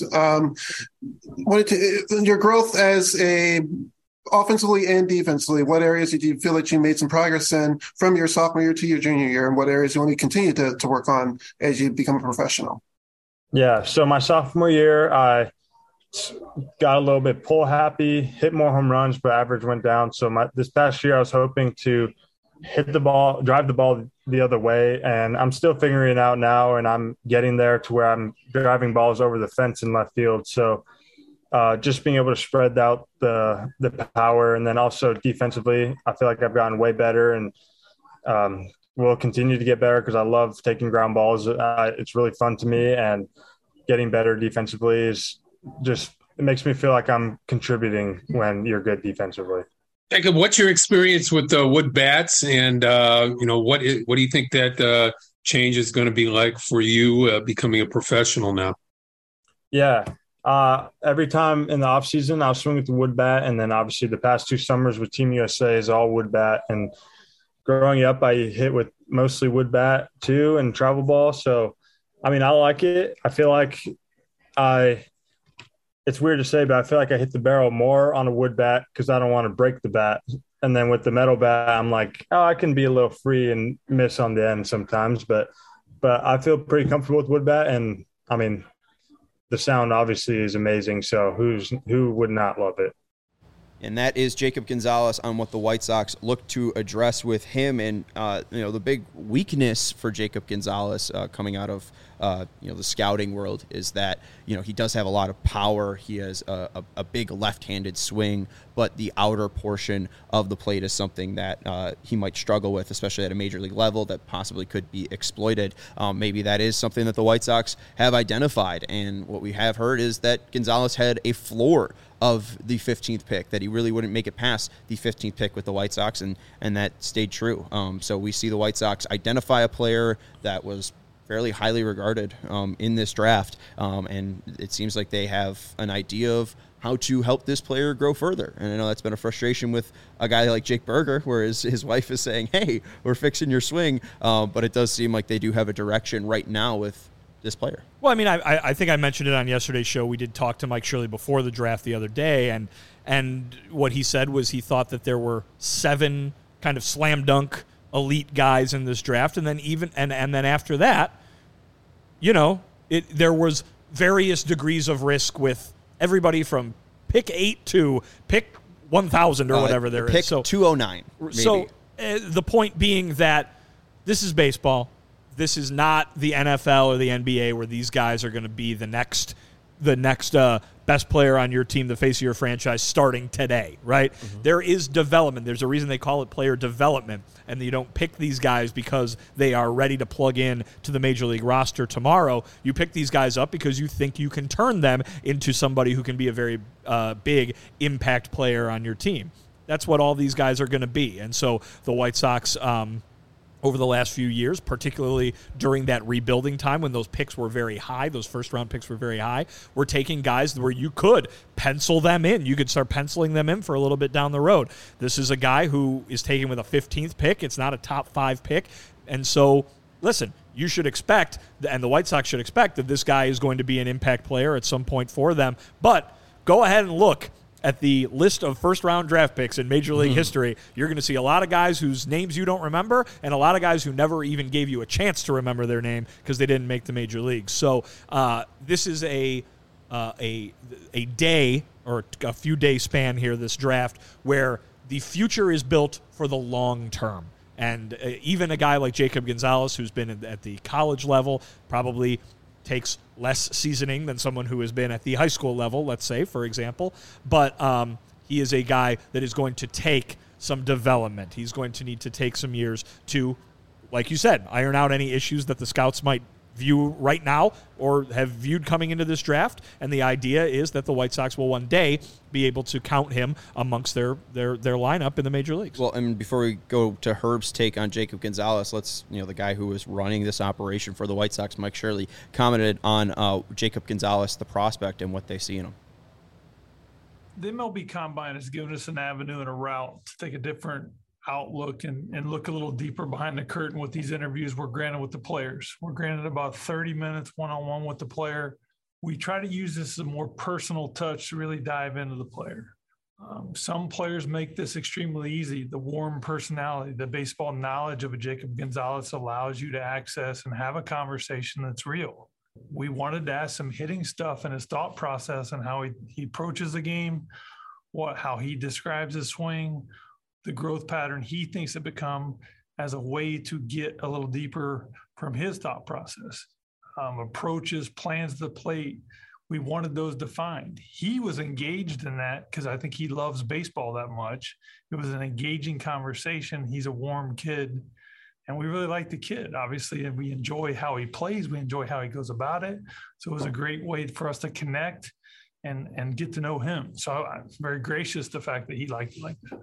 Your growth as offensively and defensively, what areas did you feel that you made some progress in from your sophomore year to your junior year, and what areas you want to continue to work on as you become a professional? Yeah, so my sophomore year, I got a little bit pull happy, hit more home runs, but average went down. So this past year I was hoping to drive the ball the other way, and I'm still figuring it out now, and I'm getting there to where I'm driving balls over the fence in left field. So just being able to spread out the power, and then also defensively, I feel like I've gotten way better, and will continue to get better because I love taking ground balls. It's really fun to me, and getting better defensively is just, it makes me feel like I'm contributing when you're good defensively. Jacob, what's your experience with the wood bats, and what do you think that change is going to be like for you becoming a professional now? Yeah, every time in the off season I'll swing with the wood bat, and then obviously the past 2 summers with Team USA is all wood bat. And growing up, I hit with mostly wood bat too, and travel ball. So, I mean, I like it. I feel like it's weird to say, but I feel like I hit the barrel more on a wood bat because I don't want to break the bat. And then with the metal bat, I'm like, I can be a little free and miss on the end sometimes. But I feel pretty comfortable with wood bat. And, I mean, the sound obviously is amazing. So who would not love it? And that is Jacob Gonzalez on what the White Sox look to address with him. And, the big weakness for Jacob Gonzalez coming out of, the scouting world is that, he does have a lot of power. He has a big left-handed swing, but the outer portion of the plate is something that he might struggle with, especially at a major league level, that possibly could be exploited. Maybe that is something that the White Sox have identified. And what we have heard is that Gonzalez had a floor of the 15th pick, that he really wouldn't make it past the 15th pick with the White Sox, and that stayed true. So we see the White Sox identify a player that was fairly highly regarded in this draft, and it seems like they have an idea of how to help this player grow further. And I know that's been a frustration with a guy like Jake Berger, where his wife is saying, hey, we're fixing your swing, but it does seem like they do have a direction right now with this player. Well, I mean, I think I mentioned it on yesterday's show. We did talk to Mike Shirley before the draft the other day, and what he said was he thought that there were 7 kind of slam dunk elite guys in this draft, and then and then after that, there was various degrees of risk with everybody from pick 8 to pick 1,000 or whatever there pick is. So 209. Maybe. So the point being that this is baseball. This is not the NFL or the NBA where these guys are going to be the next the next best player on your team, the face of your franchise, starting today, right? Mm-hmm. There is development. There's a reason they call it player development, and you don't pick these guys because they are ready to plug in to the Major League roster tomorrow. You pick these guys up because you think you can turn them into somebody who can be a very big impact player on your team. That's what all these guys are going to be. And so the White Sox, over the last few years, particularly during that rebuilding time when those picks were very high, those first-round picks were very high, we're taking guys where you could pencil them in. You could start penciling them in for a little bit down the road. This is a guy who is taken with a 15th pick. It's not a top 5 pick. And so, listen, you should expect, and the White Sox should expect, that this guy is going to be an impact player at some point for them. But go ahead and look at the list of first-round draft picks in Major League history. You're going to see a lot of guys whose names you don't remember and a lot of guys who never even gave you a chance to remember their name because they didn't make the Major Leagues. So this is a day or a few-day span here, this draft, where the future is built for the long term. And even a guy like Jacob Gonzalez, who's been at the college level, probably takes less seasoning than someone who has been at the high school level, let's say, for example. But he is a guy that is going to take some development. He's going to need to take some years to, like you said, iron out any issues that the scouts might view right now or have viewed coming into this draft. And the idea is that the White Sox will one day be able to count him amongst their lineup in the major leagues. Well, and before we go to Herb's take on Jacob Gonzalez, let's, the guy who was running this operation for the White Sox, Mike Shirley, commented on Jacob Gonzalez, the prospect, and what they see in him. The MLB Combine has given us an avenue and a route to take a different outlook and look a little deeper behind the curtain with these interviews we're granted with the players. We're granted about 30 minutes one-on-one with the player. We try to use this as a more personal touch to really dive into the player. Some players make this extremely easy. The warm personality, the baseball knowledge of a Jacob Gonzalez allows you to access and have a conversation that's real. We wanted to ask some hitting stuff in his thought process and how he approaches the game, how he describes his swing, the growth pattern he thinks it become as a way to get a little deeper from his thought process. Approaches, plans to the plate, we wanted those defined. He was engaged in that because I think he loves baseball that much. It was an engaging conversation. He's a warm kid, and we really like the kid, obviously, and we enjoy how he plays. We enjoy how he goes about it. So it was a great way for us to connect and get to know him. So I'm very gracious the fact that he liked it like that.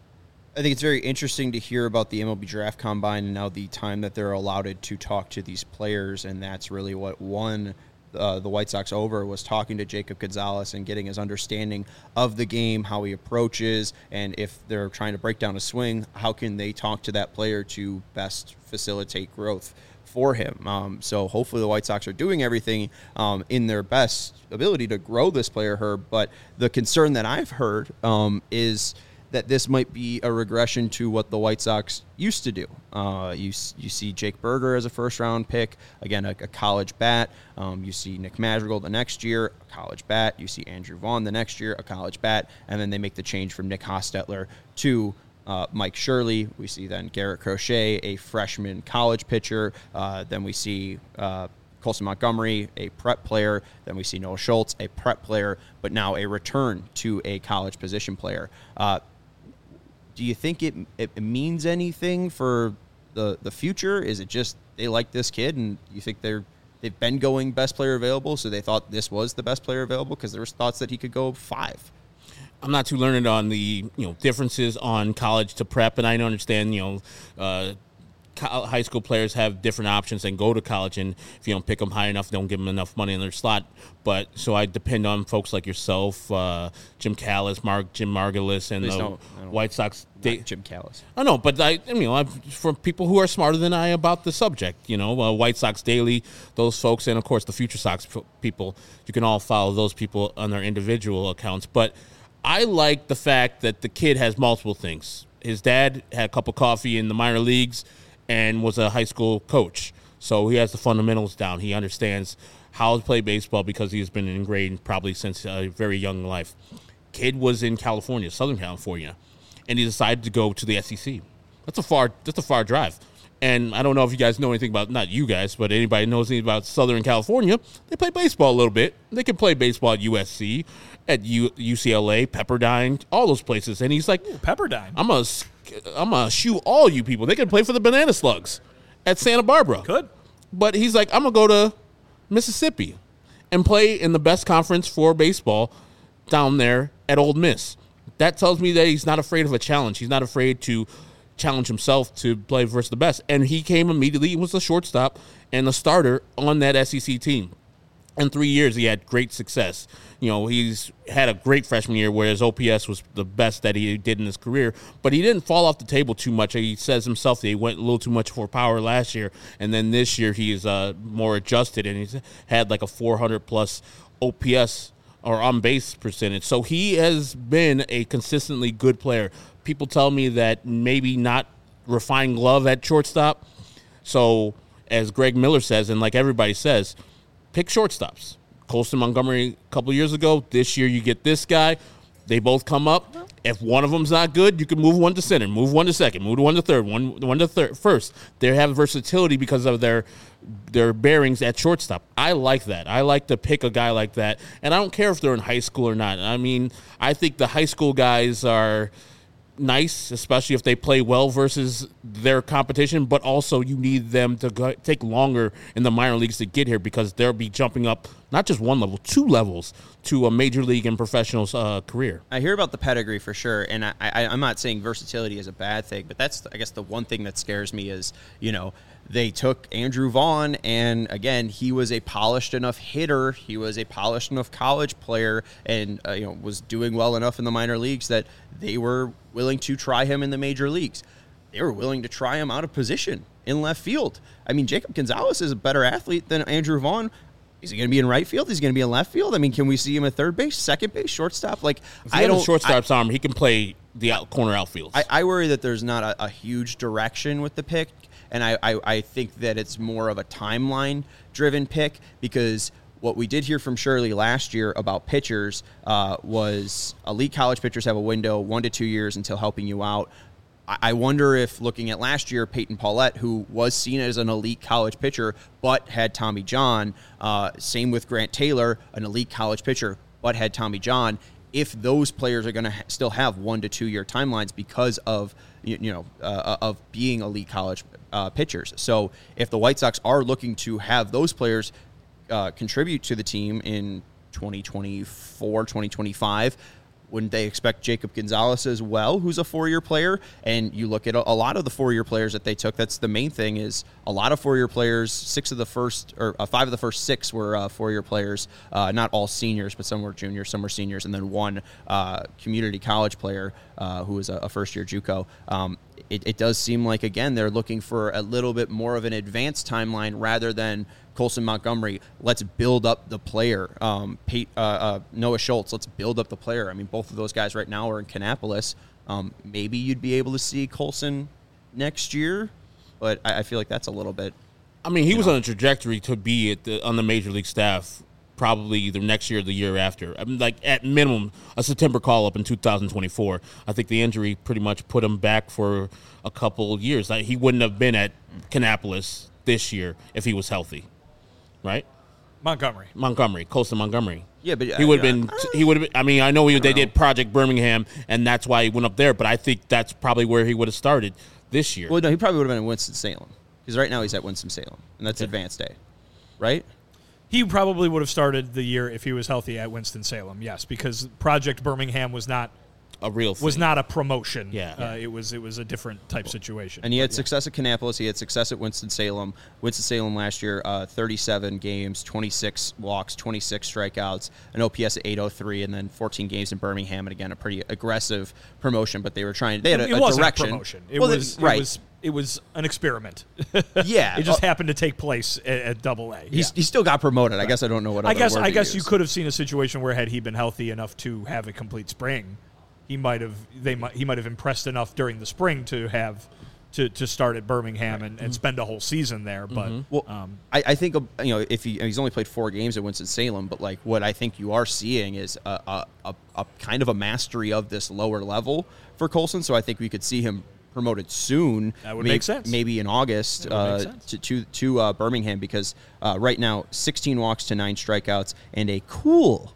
I think it's very interesting to hear about the MLB Draft Combine and now the time that they're allowed to talk to these players, and that's really what won the White Sox over, was talking to Jacob Gonzalez and getting his understanding of the game, how he approaches, and if they're trying to break down a swing, how can they talk to that player to best facilitate growth for him. So hopefully the White Sox are doing everything in their best ability to grow this player, Herb, but the concern that I've heard is that this might be a regression to what the White Sox used to do. You see Jake Berger as a first-round pick, again, a college bat. You see Nick Madrigal the next year, a college bat. You see Andrew Vaughn the next year, a college bat. And then they make the change from Nick Hostetler to Mike Shirley. We see then Garrett Crochet, a freshman college pitcher. Then we see Colson Montgomery, a prep player. Then we see Noah Schultz, a prep player, but now a return to a college position player. Do you think it means anything for the future? Is it just they like this kid and you think they've been going best player available, so they thought this was the best player available because there was thoughts that he could go 5? I'm not too learned on the differences on college to prep, and I understand high school players have different options and go to college, and if you don't pick them high enough, don't give them enough money in their slot. But so I depend on folks like yourself, Jim Callis, Jim Margulis, and the White Sox. Jim Callis. I know, but I'm from people who are smarter than I about the subject. White Sox Daily, those folks, and of course the Future Sox people. You can all follow those people on their individual accounts. But I like the fact that the kid has multiple things. His dad had a cup of coffee in the minor leagues and was a high school coach. So he has the fundamentals down. He understands how to play baseball because he's been ingrained probably since a very young life. Kid was in California, Southern California, and he decided to go to the SEC. That's a far drive. And I don't know if you guys know anything about, not you guys, but anybody knows anything about Southern California. They play baseball a little bit. They can play baseball at USC, at UCLA, Pepperdine, all those places. And he's like, Pepperdine. I'm gonna shoe all you people. They can play for the Banana Slugs at Santa Barbara. Good. But he's like, I'm going to go to Mississippi and play in the best conference for baseball down there at Ole Miss. That tells me that he's not afraid of a challenge. He's not afraid to challenge himself to play versus the best. And he came immediately. He was a shortstop and a starter on that SEC team. In 3 years, he had great success. He's had a great freshman year where his OPS was the best that he did in his career, but he didn't fall off the table too much. He says himself that he went a little too much for power last year, and then this year he's more adjusted, and he's had like a 400-plus OPS or on-base percentage. So he has been a consistently good player. People tell me that maybe not refined glove at shortstop. So as Greg Miller says, and like everybody says, pick shortstops. Colson Montgomery a couple of years ago. This year you get this guy. They both come up. If one of them's not good, you can move one to center, move one to second, move one to third, one to first. They have versatility because of their bearings at shortstop. I like that. I like to pick a guy like that, and I don't care if they're in high school or not. I mean, I think the high school guys are nice, especially if they play well versus their competition, but also you need them to take longer in the minor leagues to get here because they'll be jumping up not just one level, 2 levels to a major league and professional career. I hear about the pedigree for sure, and I'm not saying versatility is a bad thing, but that's, I guess, the one thing that scares me is, they took Andrew Vaughn, and again, he was a polished enough hitter. He was a polished enough college player, and was doing well enough in the minor leagues that they were willing to try him in the major leagues. They were willing to try him out of position in left field. I mean, Jacob Gonzalez is a better athlete than Andrew Vaughn. Is he going to be in right field? Is he going to be in left field? I mean, can we see him at third base, second base, shortstop? Like, if he has a shortstop's arm, he can play the corner outfields. I worry that there's not a huge direction with the pick. And I think that it's more of a timeline-driven pick because what we did hear from Shirley last year about pitchers was elite college pitchers have a window 1 to 2 years until helping you out. I wonder if looking at last year, Peyton Paulette, who was seen as an elite college pitcher but had Tommy John, same with Grant Taylor, an elite college pitcher but had Tommy John, if those players are going to still have 1 to 2 year timelines because of of being elite college pitchers. So if the White Sox are looking to have those players contribute to the team in 2024, 2025, wouldn't they expect Jacob Gonzalez as well, who's a 4-year player? And you look at a lot of the 4-year players that they took. That's the main thing is a lot of 4-year players. 5 of the first 6 were 4-year players. Not all seniors, but some were juniors, some were seniors, and then one community college player who was a first-year JUCO. It does seem like, again, they're looking for a little bit more of an advanced timeline rather than Colson Montgomery, let's build up the player. Noah Schultz, let's build up the player. I mean, both of those guys right now are in Kannapolis. Maybe you'd be able to see Colson next year, but I feel like that's a little bit. I mean, he was on a trajectory to be on the major league staff probably either next year or the year after. I mean, like at minimum, a September call-up in 2024. I think the injury pretty much put him back for a couple of years. He wouldn't have been at Kannapolis this year if he was healthy. Right, Colson Montgomery. Yeah, but he would have been. He would have. I mean, I know they did Project Birmingham, and that's why he went up there. But I think that's probably where he would have started this year. Well, no, he probably would have been in Winston-Salem because right now he's at Winston-Salem, and that's Advanced A, right? He probably would have started the year if he was healthy at Winston-Salem. Yes, because Project Birmingham was not a real thing. Was not a promotion. Yeah. It was a different type situation. And he had success at Kannapolis. He had success at Winston-Salem. Winston-Salem last year, 37 games, 26 walks, 26 strikeouts, an OPS at 803, and then 14 games in Birmingham. And again, a pretty aggressive promotion, but they were trying. They had a direction. A promotion. It was an experiment. Yeah, it just happened to take place at AA. He still got promoted. Right. I guess I don't know what. I guess you could have seen a situation where had he been healthy enough to have a complete spring, he might have impressed enough during the spring to have to start at Birmingham and spend a whole season there. But I think if he's only played 4 games at Winston-Salem, but like what I think you are seeing is a kind of a mastery of this lower level for Colson. So I think we could see him promoted soon. That would make sense. Maybe in August to Birmingham, because right now 16 walks to 9 strikeouts and a cool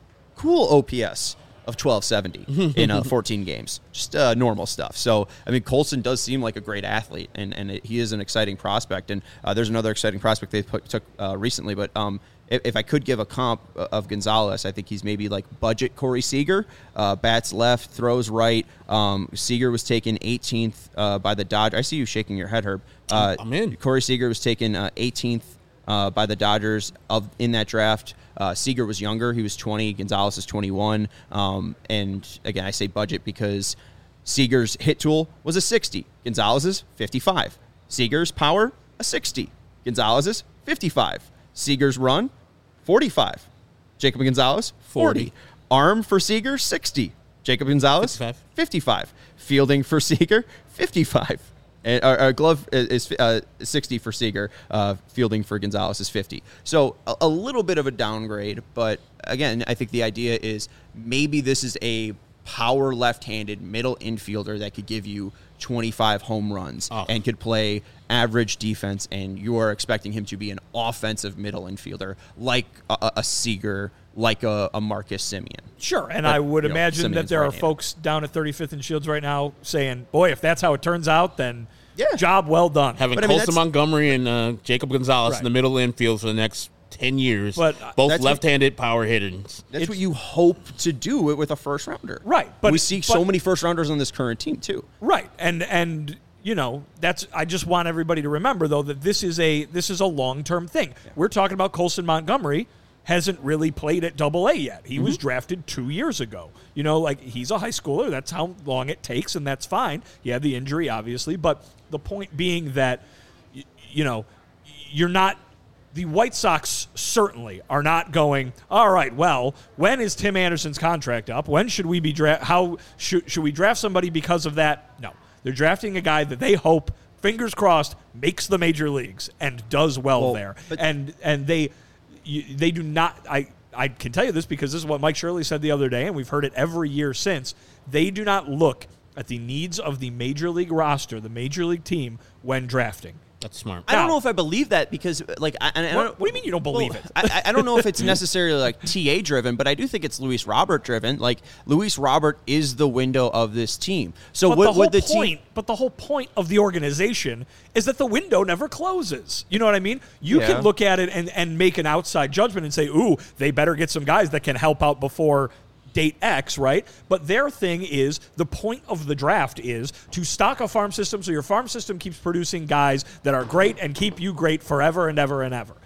OPS of 1270 in 14 games. Just normal stuff. So, I mean, Colson does seem like a great athlete, and he is an exciting prospect. And there's another exciting prospect they took recently, but if I could give a comp of Gonzalez, I think he's maybe like budget Corey Seager. Bats left, throws right. Seager was taken 18th by the Dodgers. I see you shaking your head, Herb. I'm in. Corey Seager was taken 18th by the Dodgers in that draft. Seager was younger. He was 20. Gonzalez is 21. And again, I say budget because Seager's hit tool was a 60. Gonzalez's 55. Seager's power, a 60. Gonzalez's 55. Seager's run, 45. Jacob Gonzalez, 40. Arm for Seager, 60. Jacob Gonzalez, 55. Fielding for Seager, 55. And our glove is 60 for Seager. Fielding for Gonzalez is 50. So a little bit of a downgrade, but again, I think the idea is maybe this is a power left-handed middle infielder that could give you 25 home runs and could play average defense, and you are expecting him to be an offensive middle infielder like a Seager, like a Marcus Semien. Sure, and I would imagine that there are folks down at 35th and Shields right now saying, boy, if that's how it turns out, then job well done. Having Colson Montgomery and Jacob Gonzalez in the middle infield for the next 10 years, both left-handed power hitters. That's what you hope to do with a first-rounder. Right. But we see so many first-rounders on this current team, too. Right, and you know, I just want everybody to remember, though, that this is a long-term thing. Yeah. We're talking about Colson Montgomery hasn't really played at AA yet. He was drafted 2 years ago. You know, like, he's a high schooler. That's how long it takes, and that's fine. He had the injury, obviously, but the point being that, you know, you're not – the White Sox certainly are not going, all right, well, when is Tim Anderson's contract up? When should we be how should we draft somebody because of that? No. They're drafting a guy that they hope, fingers crossed, makes the major leagues and does well there. And they do not I can tell you this because this is what Mike Shirley said the other day, and we've heard it every year since. They do not look at the needs of the major league roster, the major league team, when drafting. That's smart. I don't know if I believe that because, like, what do you mean you don't believe it? I don't know if it's necessarily like TA driven, but I do think it's Luis Robert driven. Like, Luis Robert is the window of this team. So But the whole point of the organization is that the window never closes. You know what I mean? You can look at it and make an outside judgment and say, ooh, they better get some guys that can help out before date X, right? But their thing is, the point of the draft is to stock a farm system so your farm system keeps producing guys that are great and keep you great forever and ever and ever.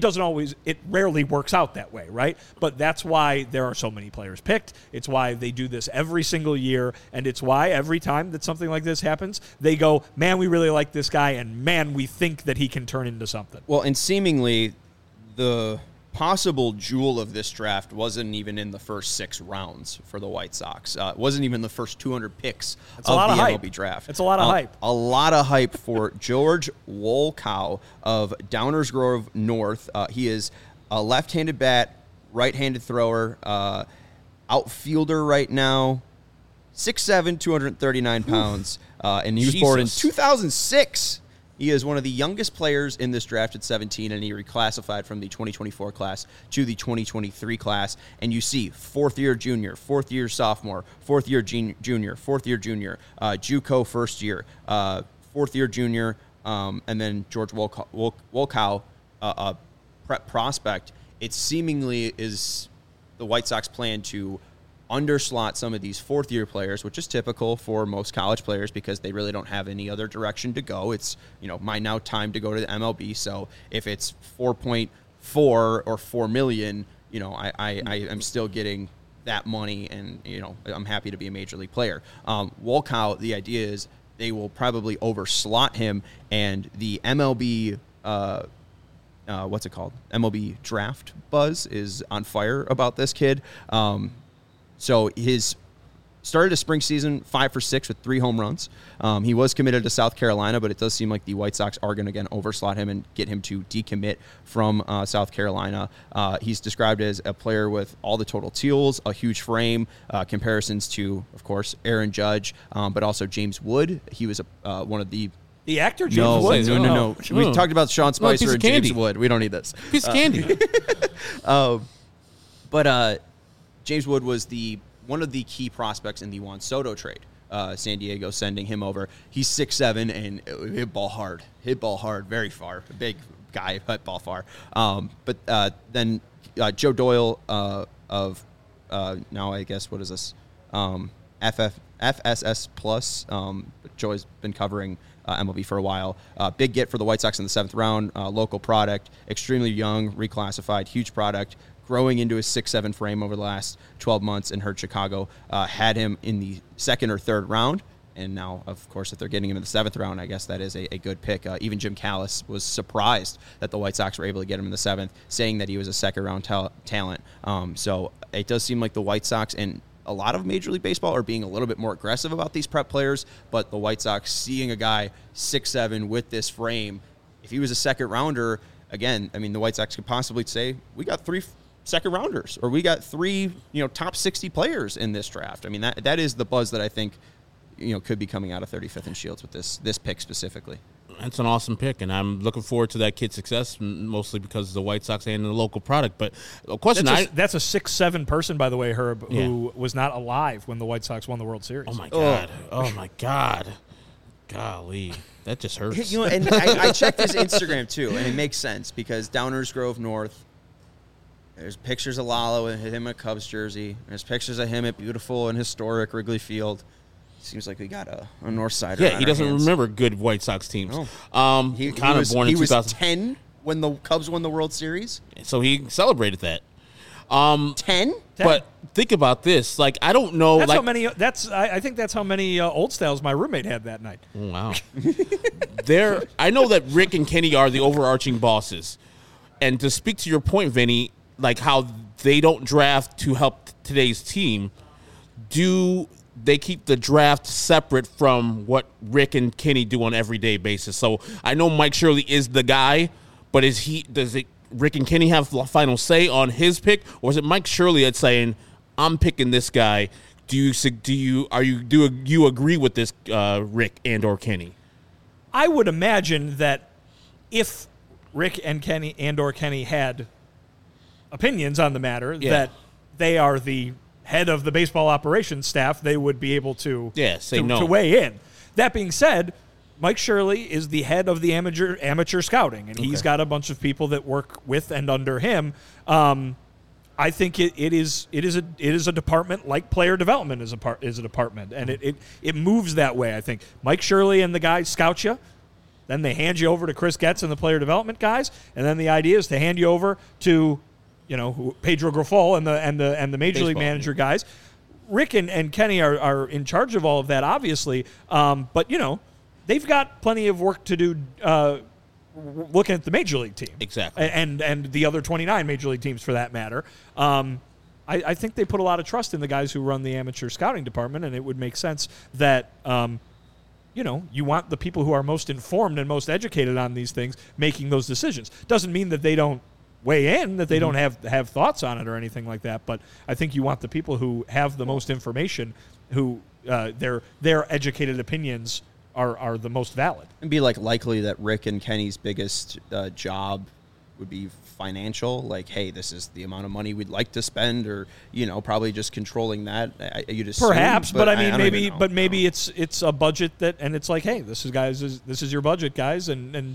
It rarely works out that way, right? But that's why there are so many players picked. It's why they do this every single year, and it's why every time that something like this happens, they go, man, we really like this guy, and man, we think that he can turn into something. Well, and seemingly the possible jewel of this draft wasn't even in the first 6 rounds for the White Sox. It wasn't even the first 200 picks of the MLB draft. It's a lot of hype. A lot of hype for George Wolkow of Downers Grove North. He is a left-handed bat, right-handed thrower, outfielder right now, 6'7", 239 pounds, and he was born in 2006. He is one of the youngest players in this draft at 17, and he reclassified from the 2024 class to the 2023 class. And you see fourth-year junior, fourth-year sophomore, fourth-year junior, fourth-year junior, JUCO first year, fourth-year junior, and then George Wolkow, a prep prospect. It seemingly is the White Sox plan to underslot some of these fourth-year players, which is typical for most college players because they really don't have any other direction to go. It's, my now time to go to the MLB. So if it's 4.4 or $4 million, I'm still getting that money, and I'm happy to be a major league player. Wolkow, the idea is they will probably overslot him, and the MLB. What's it called? MLB draft buzz is on fire about this kid. So his started a spring season 5 for 6 with 3 home runs. He was committed to South Carolina, but it does seem like the White Sox are going to again overslot him and get him to decommit from South Carolina. He's described as a player with all the total tools, a huge frame, comparisons to, of course, Aaron Judge, but also James Wood. He was one of the actor James Wood. No. We talked about Sean Spicer and James Wood. We don't need this. Piece of candy. But James Wood was one of the key prospects in the Juan Soto trade. San Diego sending him over. He's 6'7" and hit ball hard, very far. A big guy, hit ball far. But then Joe Doyle of now I guess what is this? FSS Plus. Joe's been covering MLB for a while. Big get for the White Sox in the 7th round. Local product, extremely young, reclassified, huge product. Growing into his 6'7" frame over the last 12 months and hurt Chicago. Had him in the 2nd or 3rd round. And now, of course, if they're getting him in the 7th round, I guess that is a good pick. Even Jim Callis was surprised that the White Sox were able to get him in the 7th, saying that he was a 2nd-round talent. So it does seem like the White Sox and a lot of Major League Baseball are being a little bit more aggressive about these prep players, but the White Sox seeing a guy 6'7" with this frame, if he was a 2nd-rounder, again, I mean, the White Sox could possibly say, we got 3 2nd-rounders, or we got 3, top 60 players in this draft. I mean, that is the buzz that I think, could be coming out of 35th and Shields with this pick specifically. That's an awesome pick, and I'm looking forward to that kid's success, mostly because of the White Sox and the local product. But a question, that's a 6'7" person, by the way, Herb, who was not alive when the White Sox won the World Series. Oh my God! Oh my God! Golly, that just hurts. And I checked his Instagram too, and it makes sense because Downers Grove North. There's pictures of Lalo with him in a Cubs jersey. There's pictures of him at beautiful and historic Wrigley Field. Seems like we got a North Sider. Yeah, he doesn't remember good White Sox teams. No. He was 10 when the Cubs won the World Series. So he celebrated that. 10? But think about this. Like, I don't know. That's how many. I think that's how many Old Styles my roommate had that night. Wow. I know that Rick and Kenny are the overarching bosses. And to speak to your point, Vinny, like how they don't draft to help today's team, do they keep the draft separate from what Rick and Kenny do on an everyday basis? So I know Mike Shirley is the guy, but does Rick and Kenny have the final say on his pick, or is it Mike Shirley that's saying, I'm picking this guy? Do you agree with this, Rick and or Kenny? I would imagine that if Rick and Kenny and or Kenny had opinions on the matter, that they are the head of the baseball operations staff, they would be able to to weigh in. That being said, Mike Shirley is the head of the amateur scouting, and he's got a bunch of people that work with and under him. I think it is a department like player development is a department, and it moves that way. I think Mike Shirley and the guys scout you. Then they hand you over to Chris Getz and the player development guys, and then the idea is to hand you over to, Pedro Grifol and the major league manager guys. Rick and Kenny are in charge of all of that, obviously, but they've got plenty of work to do looking at the major league team, exactly, and the other 29 major league teams for that matter. I think they put a lot of trust in the guys who run the amateur scouting department, and it would make sense that. You want the people who are most informed and most educated on these things making those decisions. Doesn't mean that they don't weigh in, that they don't have thoughts on it or anything like that, but I think you want the people who have the most information, who their educated opinions are the most valid. It'd be likely that Rick and Kenny's biggest job would be financial, like, hey, this is the amount of money we'd like to spend, or probably just controlling that. You'd assume, perhaps, but I mean, maybe it's a budget and it's like, hey, this is your budget, guys, and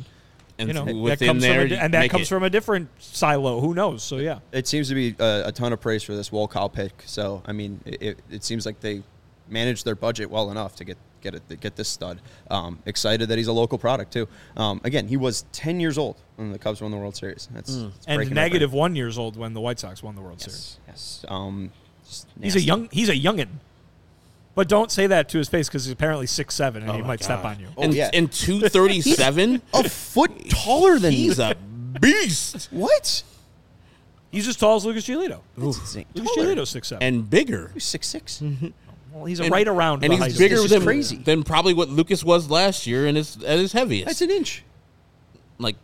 that comes from a different silo. Who knows? So yeah, it seems to be a ton of praise for this Wolkow pick. So I mean, it seems like they managed their budget well enough to get this stud. Excited that he's a local product too. Again, he was 10 years old when the Cubs won the World Series. And negative 1 years old when the White Sox won the World Series. Yes. He's a youngin. But don't say that to his face because he's apparently 6'7" and he might step on you. And 237, a foot taller than he's a beast. What? He's as tall as Lucas Giolito. That's insane. Lucas Giolito's 6'7", and bigger. He's 6'6". Mm-hmm. Well, he's right around and the he's height bigger of than, crazy. than probably what Lucas was last year and at his heaviest. That's an inch. Like,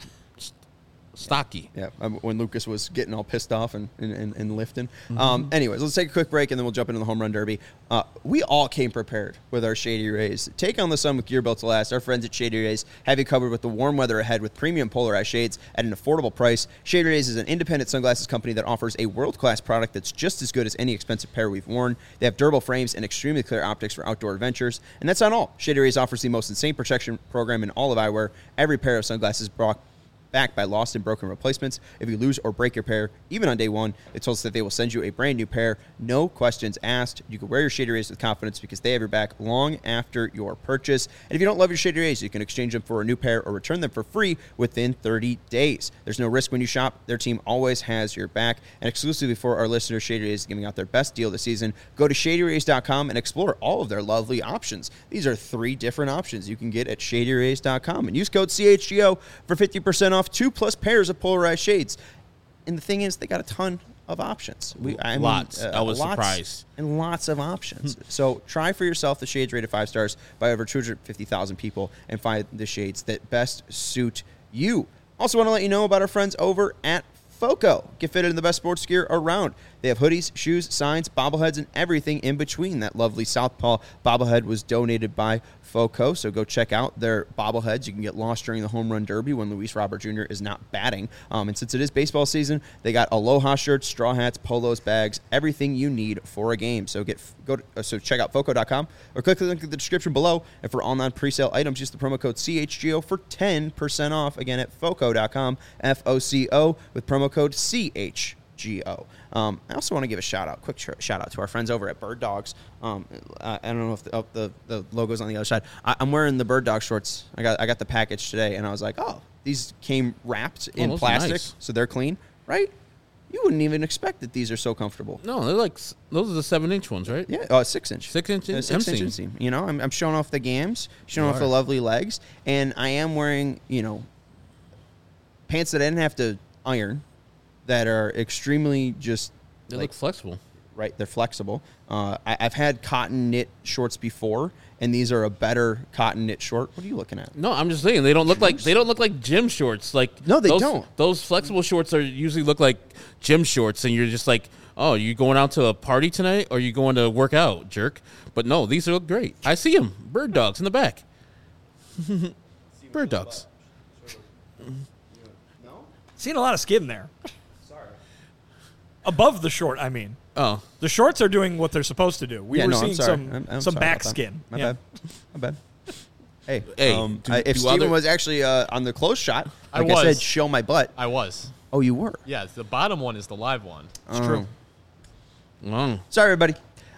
stocky. Yeah, when Lucas was getting all pissed off and lifting. Anyways, let's take a quick break, and then we'll jump into the Home Run Derby. We all came prepared with our Shady Rays. Take on the sun with gear built to last. Our friends at Shady Rays have you covered with the warm weather ahead with premium polarized shades at an affordable price. Shady Rays is an independent sunglasses company that offers a world-class product that's just as good as any expensive pair we've worn. They have durable frames and extremely clear optics for outdoor adventures. And that's not all. Shady Rays offers the most insane protection program in all of eyewear. Every pair of sunglasses backed by lost and broken replacements. If you lose or break your pair, even on day one, it tells us that they will send you a brand new pair. No questions asked. You can wear your Shady Rays with confidence because they have your back long after your purchase. And if you don't love your Shady Rays, you can exchange them for a new pair or return them for free within 30 days. There's no risk when you shop. Their team always has your back. And exclusively for our listeners, Shady Rays is giving out their best deal this season. Go to ShadyRays.com and explore all of their lovely options. These are 3 different options you can get at ShadyRays.com. And use code CHGO for 50% off 2+ pairs of polarized shades. And the thing is, they got a ton of options. Lots. I was surprised. And lots of options. So try for yourself the shades rated 5 stars by over 250,000 people and find the shades that best suit you. Also want to let you know about our friends over at FOCO. Get fitted in the best sports gear around. They have hoodies, shoes, signs, bobbleheads, and everything in between. That lovely Southpaw bobblehead was donated by FOCO, so go check out their bobbleheads. You can get lost during the Home Run Derby when Luis Robert Jr. is not batting. And since it is baseball season, they got Aloha shirts, straw hats, polos, bags, everything you need for a game. So check out FOCO.com or click the link in the description below. And for all non-presale items, use the promo code CHGO for 10% off. Again, at FOCO.com, FOCO, with promo code CHGO. I also want to give a quick shout out to our friends over at Bird Dogs. I don't know if the logo's on the other side. I'm wearing the Bird Dog shorts. I got the package today, and I was like, oh, these came wrapped in plastic, nice. So they're clean, right? You wouldn't even expect that these are so comfortable. No, they're like, those are the 7-inch ones, right? Yeah, 6-inch. 6-inch? 6-inch inseam. You know, I'm showing off the gams, showing off the lovely legs, and I am wearing, pants that I didn't have to iron, that are extremely just... They look flexible. Right, they're flexible. I've had cotton knit shorts before, and these are a better cotton knit short. What are you looking at? No, I'm just saying they don't look like gym shorts. Like no, they don't. Those flexible shorts usually look like gym shorts, and you're just like, oh, you going out to a party tonight, or you going to work out, jerk? But no, these look great. I see them. Bird Dogs in the back. Bird Dogs. Seeing a lot of skin there. Above the short, I mean. Oh. The shorts are doing what they're supposed to do. We were seeing some back skin. My bad. Hey. If Steven was actually on the close shot, I said, show my butt. I was. Oh, you were? Yeah, the bottom one is the live one. It's true. Sorry, everybody.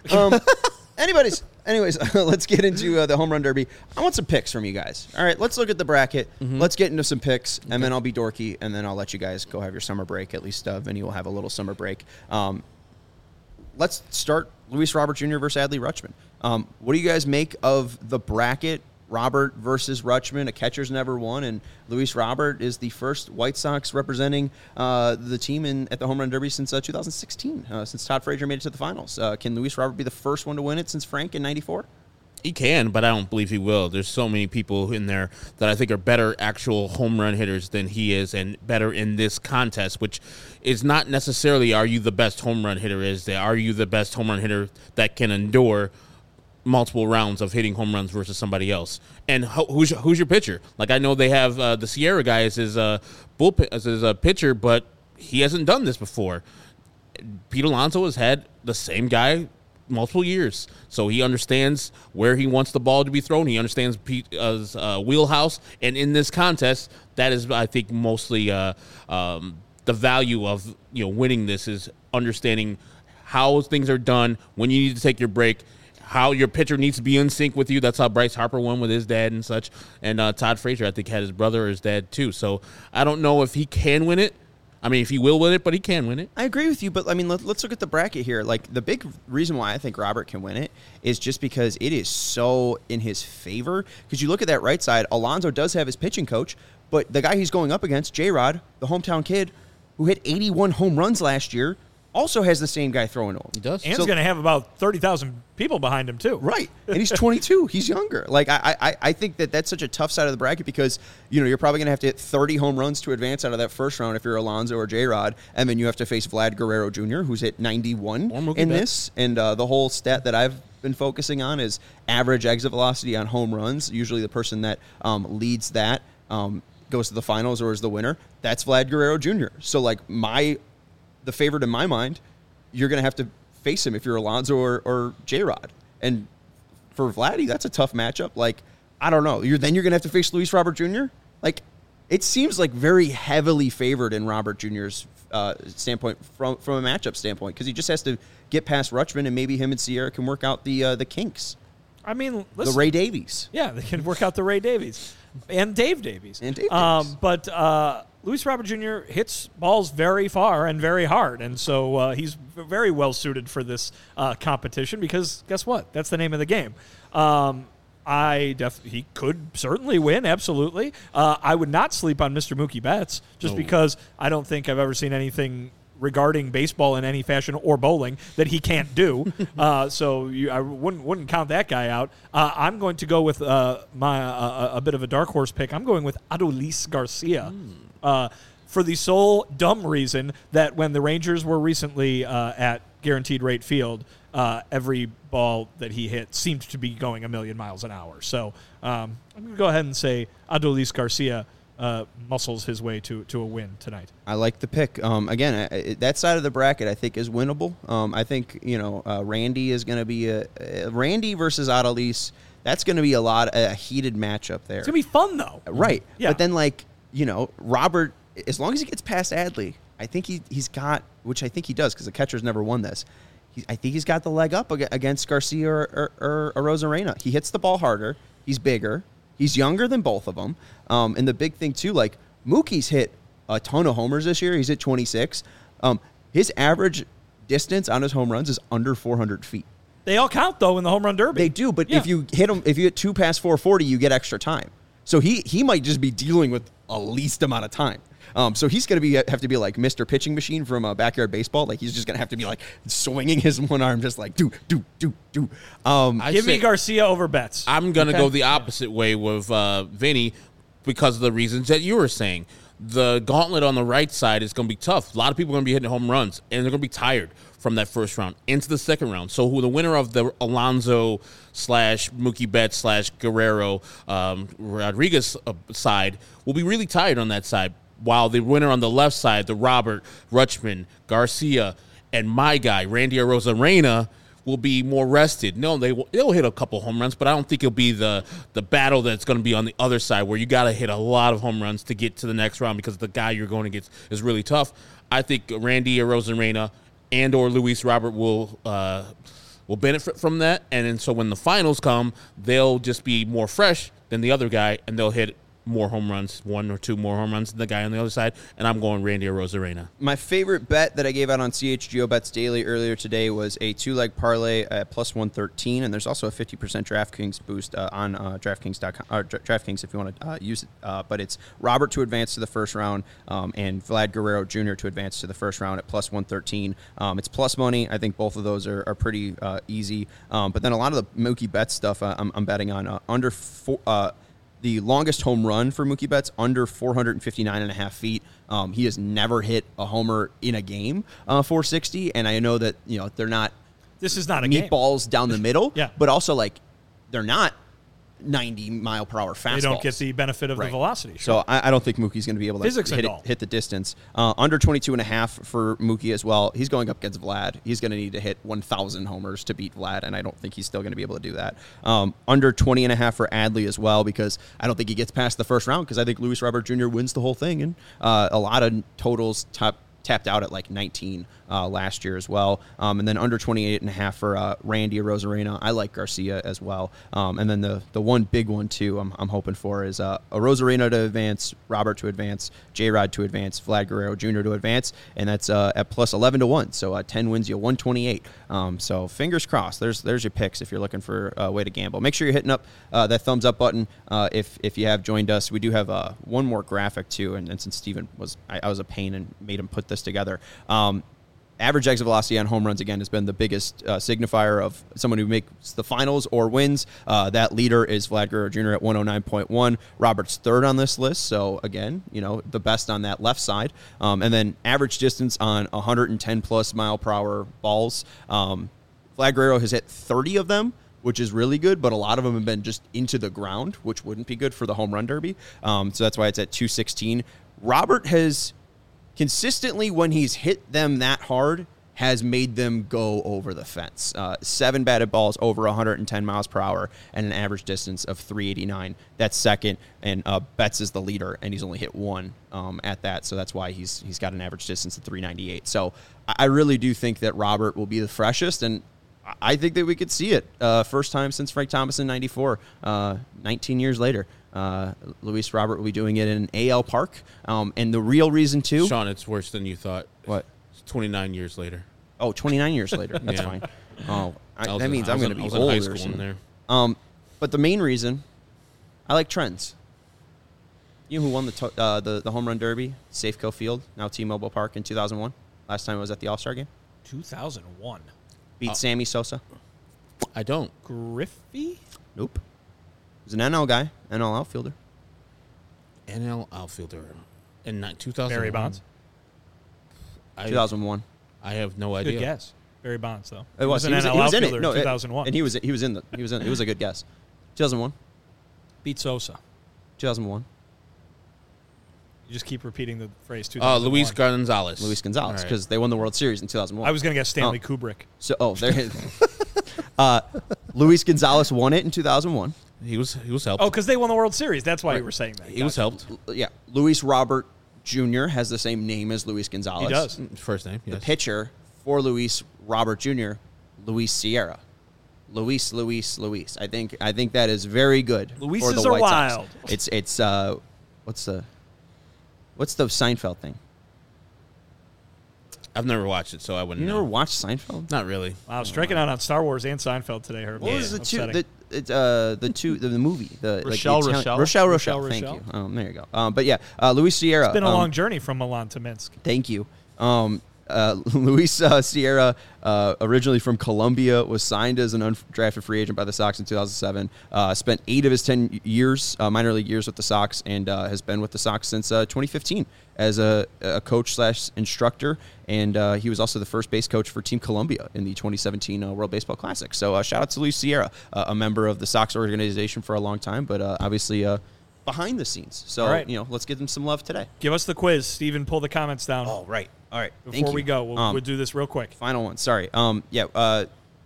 Anyways, let's get into the Home Run Derby. I want some picks from you guys. All right, let's look at the bracket. Let's get into some picks, and then I'll be dorky, and then I'll let you guys go have your summer break. At least Vinny will have a little summer break. Let's start Luis Robert Jr. versus Adley Rutschman. What do you guys make of the bracket? Robert versus Rutschman, a catcher's never won, and Luis Robert is the first White Sox representing the team at the Home Run Derby since 2016, since Todd Frazier made it to the finals. Can Luis Robert be the first one to win it since Frank in '94? He can, but I don't believe he will. There's so many people in there that I think are better actual home run hitters than he is, and better in this contest, which is not necessarily are you the best home run hitter, are you the best home run hitter that can endure multiple rounds of hitting home runs versus somebody else. And who's your pitcher? Like, I know they have the Sierra guy as his bullpen as his pitcher, but he hasn't done this before. Pete Alonso has had the same guy multiple years, so he understands where he wants the ball to be thrown. He understands Pete's wheelhouse, and in this contest, that is, I think, mostly the value of winning this is understanding how things are done, when you need to take your break, how your pitcher needs to be in sync with you. That's how Bryce Harper won with his dad and such. And Todd Frazier, I think, had his brother or his dad too. So I don't know if he can win it. I mean, if he will win it, but he can win it. I agree with you, but I mean, let's look at the bracket here. Like, the big reason why I think Robert can win it is just because it is so in his favor. Because you look at that right side, Alonso does have his pitching coach, but the guy he's going up against, J-Rod, the hometown kid, who hit 81 home runs last year, also has the same guy throwing to him. He does. And he's going to have about 30,000 people behind him, too. Right. And he's 22. He's younger. Like, I think that's such a tough side of the bracket because, you're probably going to have to hit 30 home runs to advance out of that first round if you're Alonso or J-Rod. And then you have to face Vlad Guerrero Jr., who's hit 91 in this. And the whole stat that I've been focusing on is average exit velocity on home runs. Usually the person that leads that goes to the finals or is the winner. That's Vlad Guerrero Jr. So, like, the favorite in my mind, you're going to have to face him if you're Alonso or J-Rod. And for Vladdy, that's a tough matchup. Like, I don't know. Then you're going to have to face Luis Robert Jr.? Like, it seems like very heavily favored in Robert Jr.'s standpoint from a matchup standpoint because he just has to get past Rutschman and maybe him and Sierra can work out the kinks. I mean, listen, the Ray Davies. Yeah, they can work out the Ray Davies. And Dave Davies. But Luis Robert Jr. hits balls very far and very hard, and so he's very well suited for this competition because guess what? That's the name of the game. He could certainly win, absolutely. I would not sleep on Mr. Mookie Betts just because I don't think I've ever seen anything regarding baseball in any fashion or bowling that he can't do. I wouldn't count that guy out. I'm going to go with a bit of a dark horse pick. I'm going with Adolis Garcia for the sole dumb reason that when the Rangers were recently at Guaranteed Rate Field, every ball that he hit seemed to be going a million miles an hour. So I'm going to go ahead and say Adolis Garcia muscles his way to a win tonight. I like the pick. Again, that side of the bracket I think is winnable. I think Randy is going to be Randy versus Adolis. That's going to be a heated matchup there. It's going to be fun though, right? Yeah. But then Robert, as long as he gets past Adley, I think he's got, which I think he does because the catcher's never won this. I think he's got the leg up against Garcia or Arozarena. He hits the ball harder. He's bigger. He's younger than both of them. And the big thing, too, like Mookie's hit a ton of homers this year. He's hit 26. His average distance on his home runs is under 400 feet. They all count, though, in the home run derby. They do, but if you hit 2 past 440, you get extra time. So he might just be dealing with a least amount of time. So he's going to have to be like Mr. Pitching Machine from Backyard Baseball. Like he's just going to have to be like swinging his one arm, just like do. Give me Garcia over Betts. I'm going to go the opposite way with Vinny because of the reasons that you were saying. The gauntlet on the right side is going to be tough. A lot of people are going to be hitting home runs, and they're going to be tired from that first round into the second round. So who the winner of the Alonso / Mookie Betts / Guerrero Rodriguez side will be really tired on that side, while the winner on the left side, the Robert, Rutschman, Garcia, and my guy, Randy Arozarena, will be more rested. No, they'll hit a couple home runs, but I don't think it'll be the battle that's going to be on the other side where you got to hit a lot of home runs to get to the next round because the guy you're going against is really tough. I think Randy Arozarena and or Luis Robert will benefit from that, and then so when the finals come, they'll just be more fresh than the other guy, and they'll hit more home runs, 1 or 2 more home runs than the guy on the other side, and I'm going Randy Arozarena. My favorite bet that I gave out on CHGO Bets Daily earlier today was a 2-leg parlay at plus 113, and there's also a 50% DraftKings boost on DraftKings.com, or DraftKings if you want to use it. But it's Robert to advance to the first round and Vlad Guerrero Jr. to advance to the first round at plus 113. It's plus money. I think both of those are pretty easy. But then a lot of the Mookie Betts stuff I'm betting on under 4. The longest home run for Mookie Betts, under 459.5 feet. He has never hit a homer in a game, 460. And I know that they're not. This is not a meatballs down the middle. Yeah. But also they're not 90-mile-per-hour fastballs. They don't get the benefit of the velocity. Sure. So I don't think Mookie's going to be able to hit the distance. Under 22.5 for Mookie as well. He's going up against Vlad. He's going to need to hit 1,000 homers to beat Vlad, and I don't think he's still going to be able to do that. Under 20.5 for Adley as well, because I don't think he gets past the first round, because I think Luis Robert Jr. wins the whole thing, and a lot of totals tapped out at 19 last year as well. And then under 28.5 for Randy Arozarena. I like Garcia as well. And then the one big one, too, I'm hoping for is Arozarena to advance, Robert to advance, J-Rod to advance, Vlad Guerrero Jr. to advance, and that's at plus 11 to 1. So 10 wins you 128. So fingers crossed. There's your picks if you're looking for a way to gamble. Make sure you're hitting up that thumbs up button if you have joined us. We do have one more graphic, too, and since Steven I was a pain and made him put this together. Average exit velocity on home runs, again, has been the biggest signifier of someone who makes the finals or wins. That leader is Vlad Guerrero Jr. at 109.1. Robert's third on this list, so again, the best on that left side. And then average distance on 110-plus mile-per-hour balls. Vlad Guerrero has hit 30 of them, which is really good, but a lot of them have been just into the ground, which wouldn't be good for the home run derby. So that's why it's at 216. Robert has consistently, when he's hit them that hard, has made them go over the fence. 7 batted balls over 110 miles per hour and an average distance of 389. That's second, and Betts is the leader, and he's only hit 1 at that, so that's why he's got an average distance of 398. So I really do think that Robert will be the freshest, and I think that we could see it. First time since Frank Thomas in 94, 19 years later. Luis Robert will be doing it in AL Park. And the real reason, too... Sean, it's worse than you thought. What? It's 29 years later. Oh, 29 years later. That's fine. Oh, that means I'm going to be older. I was in high school in there. But the main reason, I like trends. You know who won the home run derby? Safeco Field, now T-Mobile Park, in 2001? Last time it was at the All-Star game? 2001. Beat Sammy Sosa? I don't. Griffey? Nope. He was an NL guy, NL outfielder. NL outfielder. In 2001. Barry Bonds? 2001. I have no idea. Good guess. Barry Bonds, though. It was. He was in it. No, 2001. And he was in. It was a good guess. 2001. Beat Sosa. 2001. You just keep repeating the phrase 2001. Luis Gonzalez. Luis Gonzalez, because they won the World Series in 2001. I was going to guess Stanley Kubrick. So, there. Luis Gonzalez won it in 2001. He was helped. Oh, because they won the World Series. That's why you were saying that. He was helped. Yeah. Luis Robert Jr. has the same name as Luis Gonzalez. He does. First name, yes. The pitcher for Luis Robert Jr., Luis Sierra. Luis. I think that is very good. Luises for the are White wild. Sox. It's what's the Seinfeld thing? I've never watched it, so I wouldn't know. You never watched Seinfeld? Not really. Wow, striking out on Star Wars and Seinfeld today, Herb. What was the movie? Rochelle. Thank you. There you go. But yeah, Luis Sierra. It's been a long journey from Milan to Minsk. Thank you. Luis Sierra, originally from Colombia, was signed as an undrafted free agent by the Sox in 2007. Spent 8 of his 10 years, minor league years, with the Sox, and has been with the Sox since 2015 as a coach/instructor. And he was also the first base coach for Team Colombia in the 2017 World Baseball Classic. So shout out to Luis Sierra, a member of the Sox organization for a long time, but obviously behind the scenes. So, right. Let's give them some love today. Give us the quiz. Steven, pull the comments down. Oh, right. All right. Before we go, we'll do this real quick. Final one. Sorry. I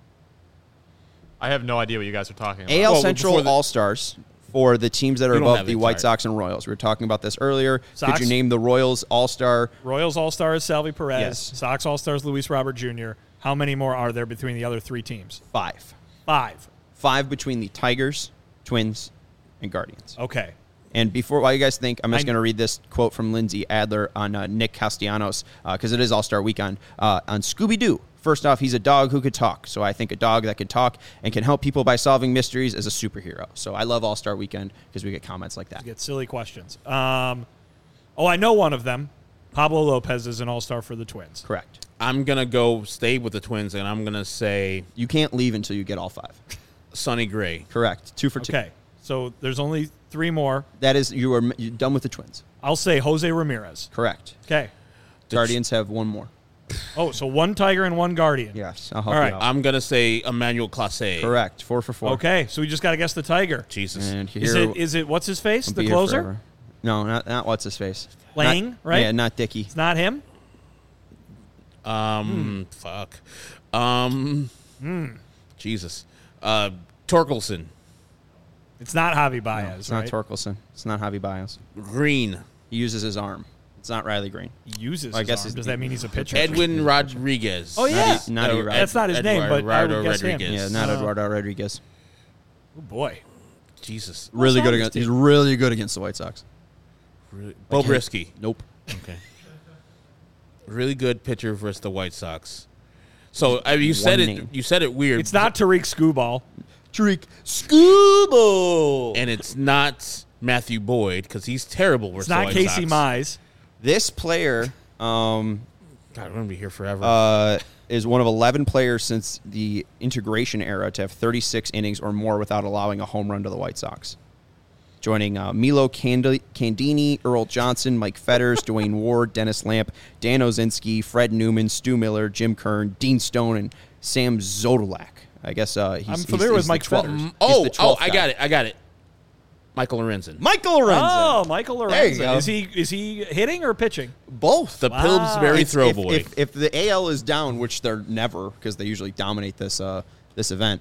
have no idea what you guys are talking about. AL Central All-Stars for the teams that are above the White chart. Sox and Royals. We were talking about this earlier. Sox? Could you name the Royals All-Star? Royals All-Star is Salvi Perez. Yes. Sox All-Stars Luis Robert Jr. How many more are there between the other 3 teams? 5. 5 between the Tigers, Twins, and Guardians. Okay. And while you guys think, I'm just going to read this quote from Lindsay Adler on Nick Castellanos, because it is All-Star Weekend. On Scooby-Doo, first off, he's a dog who could talk. So I think a dog that can talk and can help people by solving mysteries is a superhero. So I love All-Star Weekend because we get comments like that. You get silly questions. I know one of them. Pablo Lopez is an All-Star for the Twins. Correct. I'm going to stay with the Twins, and I'm going to say... You can't leave until you get all 5. Sonny Gray. Correct. 2 for 2. Okay. So there's only 3 more. That is, you're done with the Twins. I'll say Jose Ramirez. Correct. Okay. Guardians have 1 more. Oh, so 1 Tiger and 1 Guardian. Yes. I'll help All right. you out. I'm going to say Emmanuel Clase. Correct. 4 for 4. Okay, so we just got to guess the Tiger. Jesus. And here, Is it what's his face? I'll The be here closer? forever. No, not what's his face. Lang, right? Yeah, not Dickey. It's not him? Fuck. Jesus. Torkelson. It's not Javi Baez, No, it's right? not Torkelson. It's not Javi Baez. Green. He uses his arm. It's not Riley Green. He uses I his guess arm. Does that mean he's a pitcher? Edwin Rodriguez. Oh, yeah. Not That's not his name, but I would guess him. Rodriguez. Yeah, not Eduardo Rodriguez. Oh, boy. Jesus. Really good against. He's really good against the White Sox. Really? Bo Brisky. Nope. Okay. Really good pitcher versus the White Sox. So you said it. name. You said it weird. It's not Tariq Skubal. Tariq Skubal. and it's not Matthew Boyd because he's terrible versus It's not the White Casey Sox. Mize. This player God, we're gonna be here forever. Is one of 11 players since the integration era to have 36 innings or more without allowing a home run to the White Sox. Joining Milo Candini, Earl Johnson, Mike Fetters, Dwayne Ward, Dennis Lamp, Dan Ozinski, Fred Newman, Stu Miller, Jim Kern, Dean Stone, and Sam Zodolak. I guess I'm familiar with Mike Fetters. I got it. Michael Lorenzen. Michael Lorenzen. Oh, Michael Lorenzen. There you go. Is he hitting or pitching? Both. The Pillsbury throw boy. If the AL is down, which they're never, because they usually dominate this this event,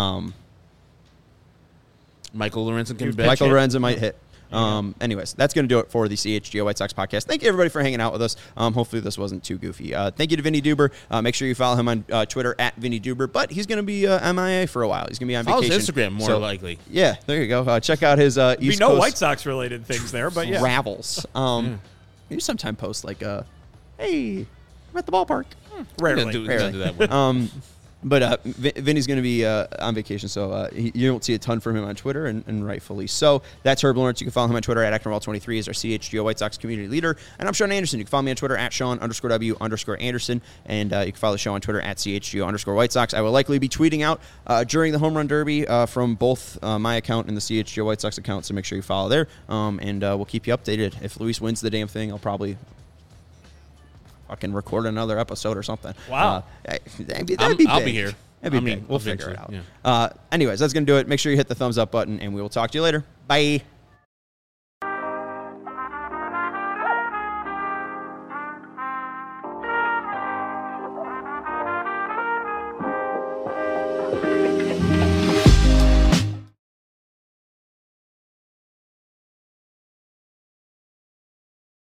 Michael Lorenzen can pitch. Michael Lorenzen might hit. Anyways, that's going to do it for the CHGO White Sox podcast. Thank you, everybody, for hanging out with us. Hopefully this wasn't too goofy. Thank you to Vinny Duber. Make sure you follow him on Twitter at Vinny Duber, but he's going to be MIA for a while. He's going to be on Follow vacation. his Instagram, more likely. Yeah, there you go. Check out his East Coast White Sox-related things there, but yeah. travels. Maybe sometime post like, hey, I'm at the ballpark. Rarely. Do that But Vinny's going to be on vacation, so you don't see a ton from him on Twitter, and rightfully so. That's Herb Lawrence. You can follow him on Twitter at ActonWall23. He's our CHGO White Sox community leader. And I'm Sean Anderson. You can follow me on Twitter at Sean_W_Anderson. And you can follow the show on Twitter at CHGO_White Sox. I will likely be tweeting out during the Home Run Derby from both my account and the CHGO White Sox account, so make sure you follow there. And we'll keep you updated. If Luis wins the damn thing, I'll probably fucking record another episode or something. Wow. That'd be big. I'll be here. That'd be big. We'll figure it out. Yeah. Anyways, that's going to do it. Make sure you hit the thumbs up button, and we will talk to you later. Bye.